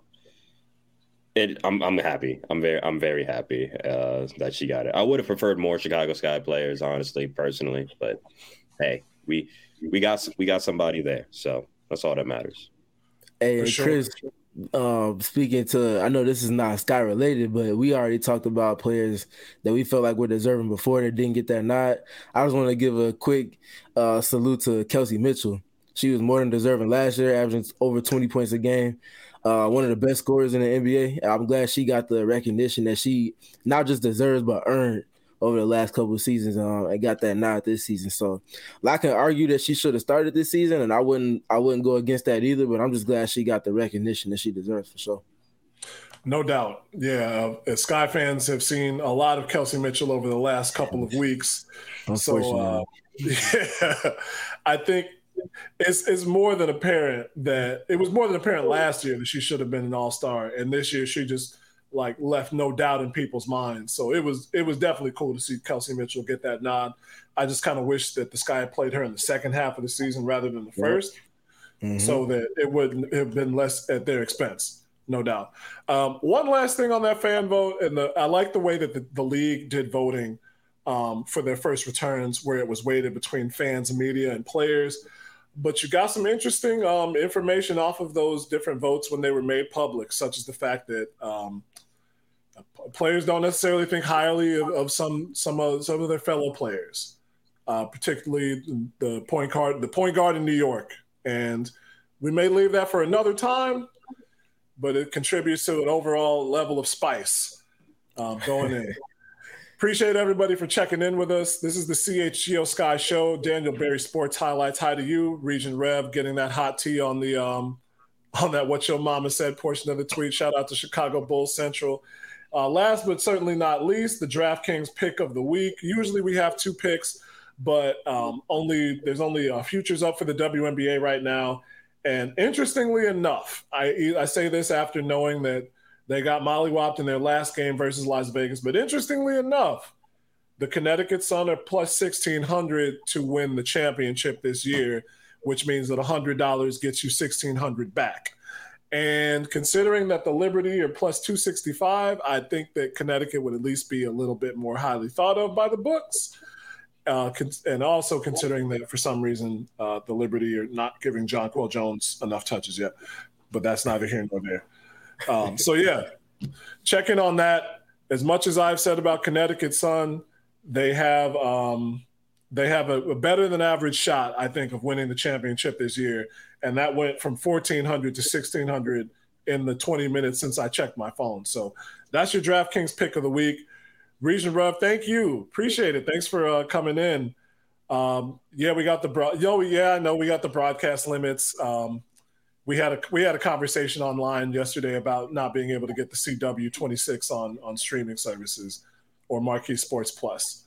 It, I'm I'm happy. I'm very I'm very happy uh, that she got it. I would have preferred more Chicago Sky players, honestly, personally. But hey, we we got we got somebody there, so that's all that matters. Hey, sure. Chris, uh, speaking to, I know this is not Sky related, but we already talked about players that we felt like were deserving before that didn't get that nod. I just want to give a quick uh, salute to Kelsey Mitchell. She was more than deserving last year, averaging over twenty points a game. Uh, one of the best scorers in the N B A. I'm glad she got the recognition that she not just deserves but earned over the last couple of seasons. Um, and got that nod this season. So I can argue that she should have started this season, and I wouldn't I wouldn't go against that either. But I'm just glad she got the recognition that she deserves for sure. No doubt. Yeah, uh, Sky fans have seen a lot of Kelsey Mitchell over the last couple of weeks. So uh, yeah, I think. It's it's more than apparent that it was more than apparent last year that she should have been an all-star, and this year she just like left no doubt in people's minds. So it was it was definitely cool to see Kelsey Mitchell get that nod. I just kind of wish that the Sky played her in the second half of the season rather than the first, mm-hmm. so that it wouldn't have been less at their expense, no doubt. Um, one last thing on that fan vote, and the, I like the way that the, the league did voting um, for their first returns, where it was weighted between fans and media and players. But you got some interesting um, information off of those different votes when they were made public, such as the fact that um, players don't necessarily think highly of, of some some of some of their fellow players, uh, particularly the point guard, the point guard in New York. And we may leave that for another time, but it contributes to an overall level of spice uh, going in. Appreciate everybody for checking in with us. This is the C H G O Sky Show. Daniel Berry Sports Highlights. Hi to you, Region Rev, getting that hot tea on the um, on that What Your Mama Said portion of the tweet. Shout out to Chicago Bulls Central. Uh, last but certainly not least, the DraftKings pick of the week. Usually we have two picks, but um, only there's only uh, futures up for the W N B A right now. And interestingly enough, I I say this after knowing that they got mollywopped in their last game versus Las Vegas. But interestingly enough, the Connecticut Sun are plus sixteen hundred to win the championship this year, which means that one hundred dollars gets you sixteen hundred dollars back. And considering that the Liberty are plus two sixty-five, I think that Connecticut would at least be a little bit more highly thought of by the books. Uh, and also considering that for some reason uh, the Liberty are not giving Jonquel Jones enough touches yet. But that's neither here nor there. Um, so, yeah, check in on that. As much as I've said about Connecticut Sun, they have um, they have a, a better than average shot, I think, of winning the championship this year. And that went from fourteen hundred to sixteen hundred in the twenty minutes since I checked my phone. So that's your DraftKings pick of the week. Region Rev, thank you. Appreciate it. Thanks for uh, coming in. Um, yeah, we got the bro- Yo, yeah, I know we got the broadcast limits. Um, We had a we had a conversation online yesterday about not being able to get the C W twenty-six on on streaming services or Marquee Sports Plus.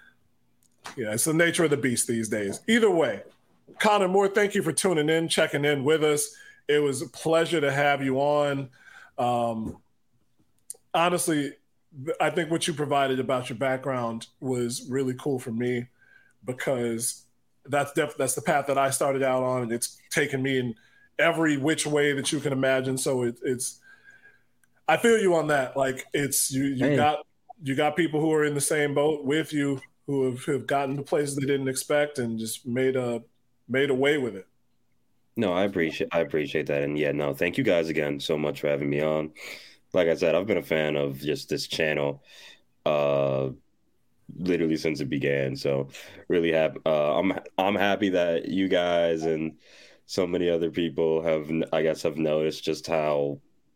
Yeah, it's the nature of the beast these days. Either way, Connor Moore, thank you for tuning in, checking in with us. It was a pleasure to have you on. Um, honestly, I think what you provided about your background was really cool for me because that's def- that's the path that I started out on, and it's taken me in every which way that you can imagine. So it, it's, I feel you on that. Like it's, you, you hey. got, you got people who are in the same boat with you who have, have gotten to places they didn't expect and just made a, made a way with it. No, I appreciate, I appreciate that. And yeah, no, thank you guys again so much for having me on. Like I said, I've been a fan of just this channel uh, literally since it began. So really happy. Uh, I'm I'm happy that you guys and so many other people have, I guess, have noticed just how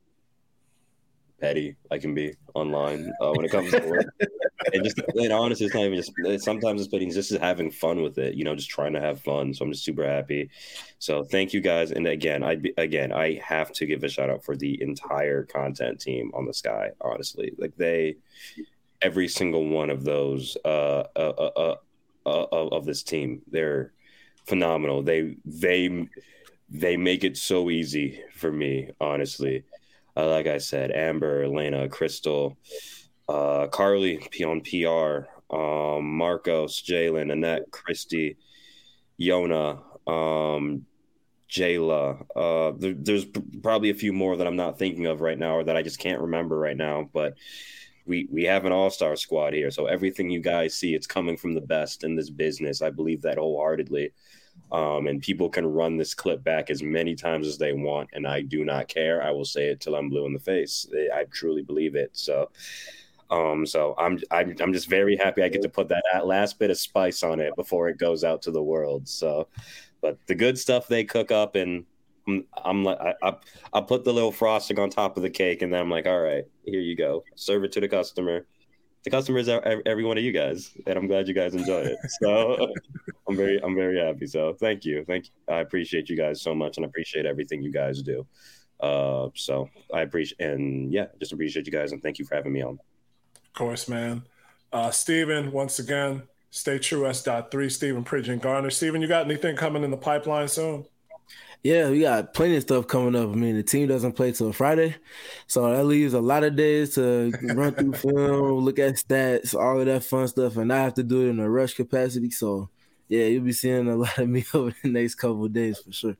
petty I can be online uh, when it comes to work. And just, and honestly, it's not even just, it's, sometimes it's petty, just having fun with it, you know, just trying to have fun. So I'm just super happy. So thank you guys. And again, I again, I have to give a shout out for the entire content team on the Sky, honestly. Like they, every single one of those uh, uh, uh, uh, uh, of this team, they're phenomenal. They, they, they make it so easy for me, honestly. Uh, like I said, Amber, Elena, Crystal, uh, Carly on P R, um, Marcos, Jalen, Annette, Christy, Yona, um, Jayla. Uh, there, there's probably a few more that I'm not thinking of right now or that I just can't remember right now. But we we have an all-star squad here. So everything you guys see, it's coming from the best in this business. I believe that wholeheartedly. Um, and people can run this clip back as many times as they want, and I do not care. I will say it till I'm blue in the face. I truly believe it. So, um, so I'm I'm I'm just very happy I get to put that last bit of spice on it before it goes out to the world. So, but the good stuff they cook up, and I'm, I'm like I, I I put the little frosting on top of the cake, and then I'm like, all right, here you go, serve it to the customer. The customers are every one of you guys, and I'm glad you guys enjoy it. So I'm very, I'm very happy. So thank you, thank you. I appreciate you guys so much, and I appreciate everything you guys do. Uh, so I appreciate, and yeah, just appreciate you guys, and thank you for having me on. Of course, man. Uh, Steven, once again, stay true. S dot three. Steven Pridge and Garner. Steven, you got anything coming in the pipeline soon? Yeah, we got plenty of stuff coming up. I mean, the team doesn't play till Friday, so that leaves a lot of days to run through film, look at stats, all of that fun stuff, and I have to do it in a rush capacity. So, yeah, you'll be seeing a lot of me over the next couple of days for sure.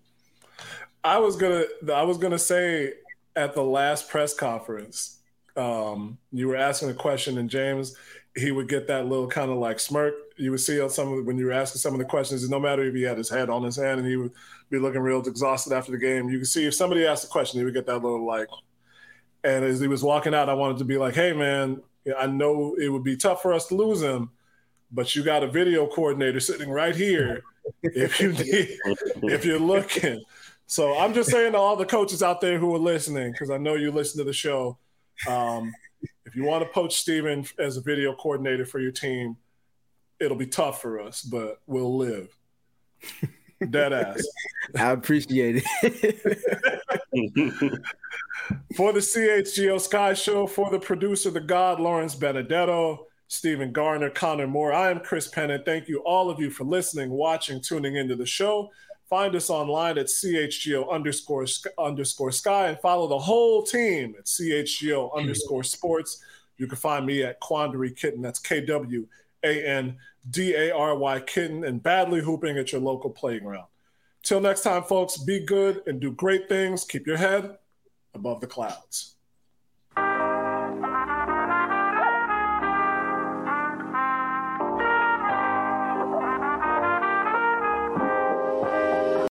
I was gonna, I was gonna say at the last press conference, um, you were asking a question, and James, he would get that little kind of like smirk. You would see on some of the, when you were asking some of the questions, and no matter if he had his head on his hand and he would be looking real exhausted after the game, you could see if somebody asked a question, he would get that little like, and as he was walking out, I wanted to be like, hey man, I know it would be tough for us to lose him, but you got a video coordinator sitting right here if you need, if you're looking. So I'm just saying to all the coaches out there who are listening, because I know you listen to the show, um, if you want to poach Steven as a video coordinator for your team, it'll be tough for us, but we'll live. Dead ass. I appreciate it. For the C H G O Sky Show, for the producer, the God, Lawrence Benedetto, Steven Garner, Connor Moore, I am Chris Pennant. Thank you, all of you, for listening, watching, tuning into the show. Find us online at C H G O underscore, underscore Sky and follow the whole team at C H G O underscore Sports. You can find me at Quandary Kitten. That's K W A N D A R Y Kitten, and Badly Hooping at your local playground. Till next time, folks, be good and do great things. Keep your head above the clouds.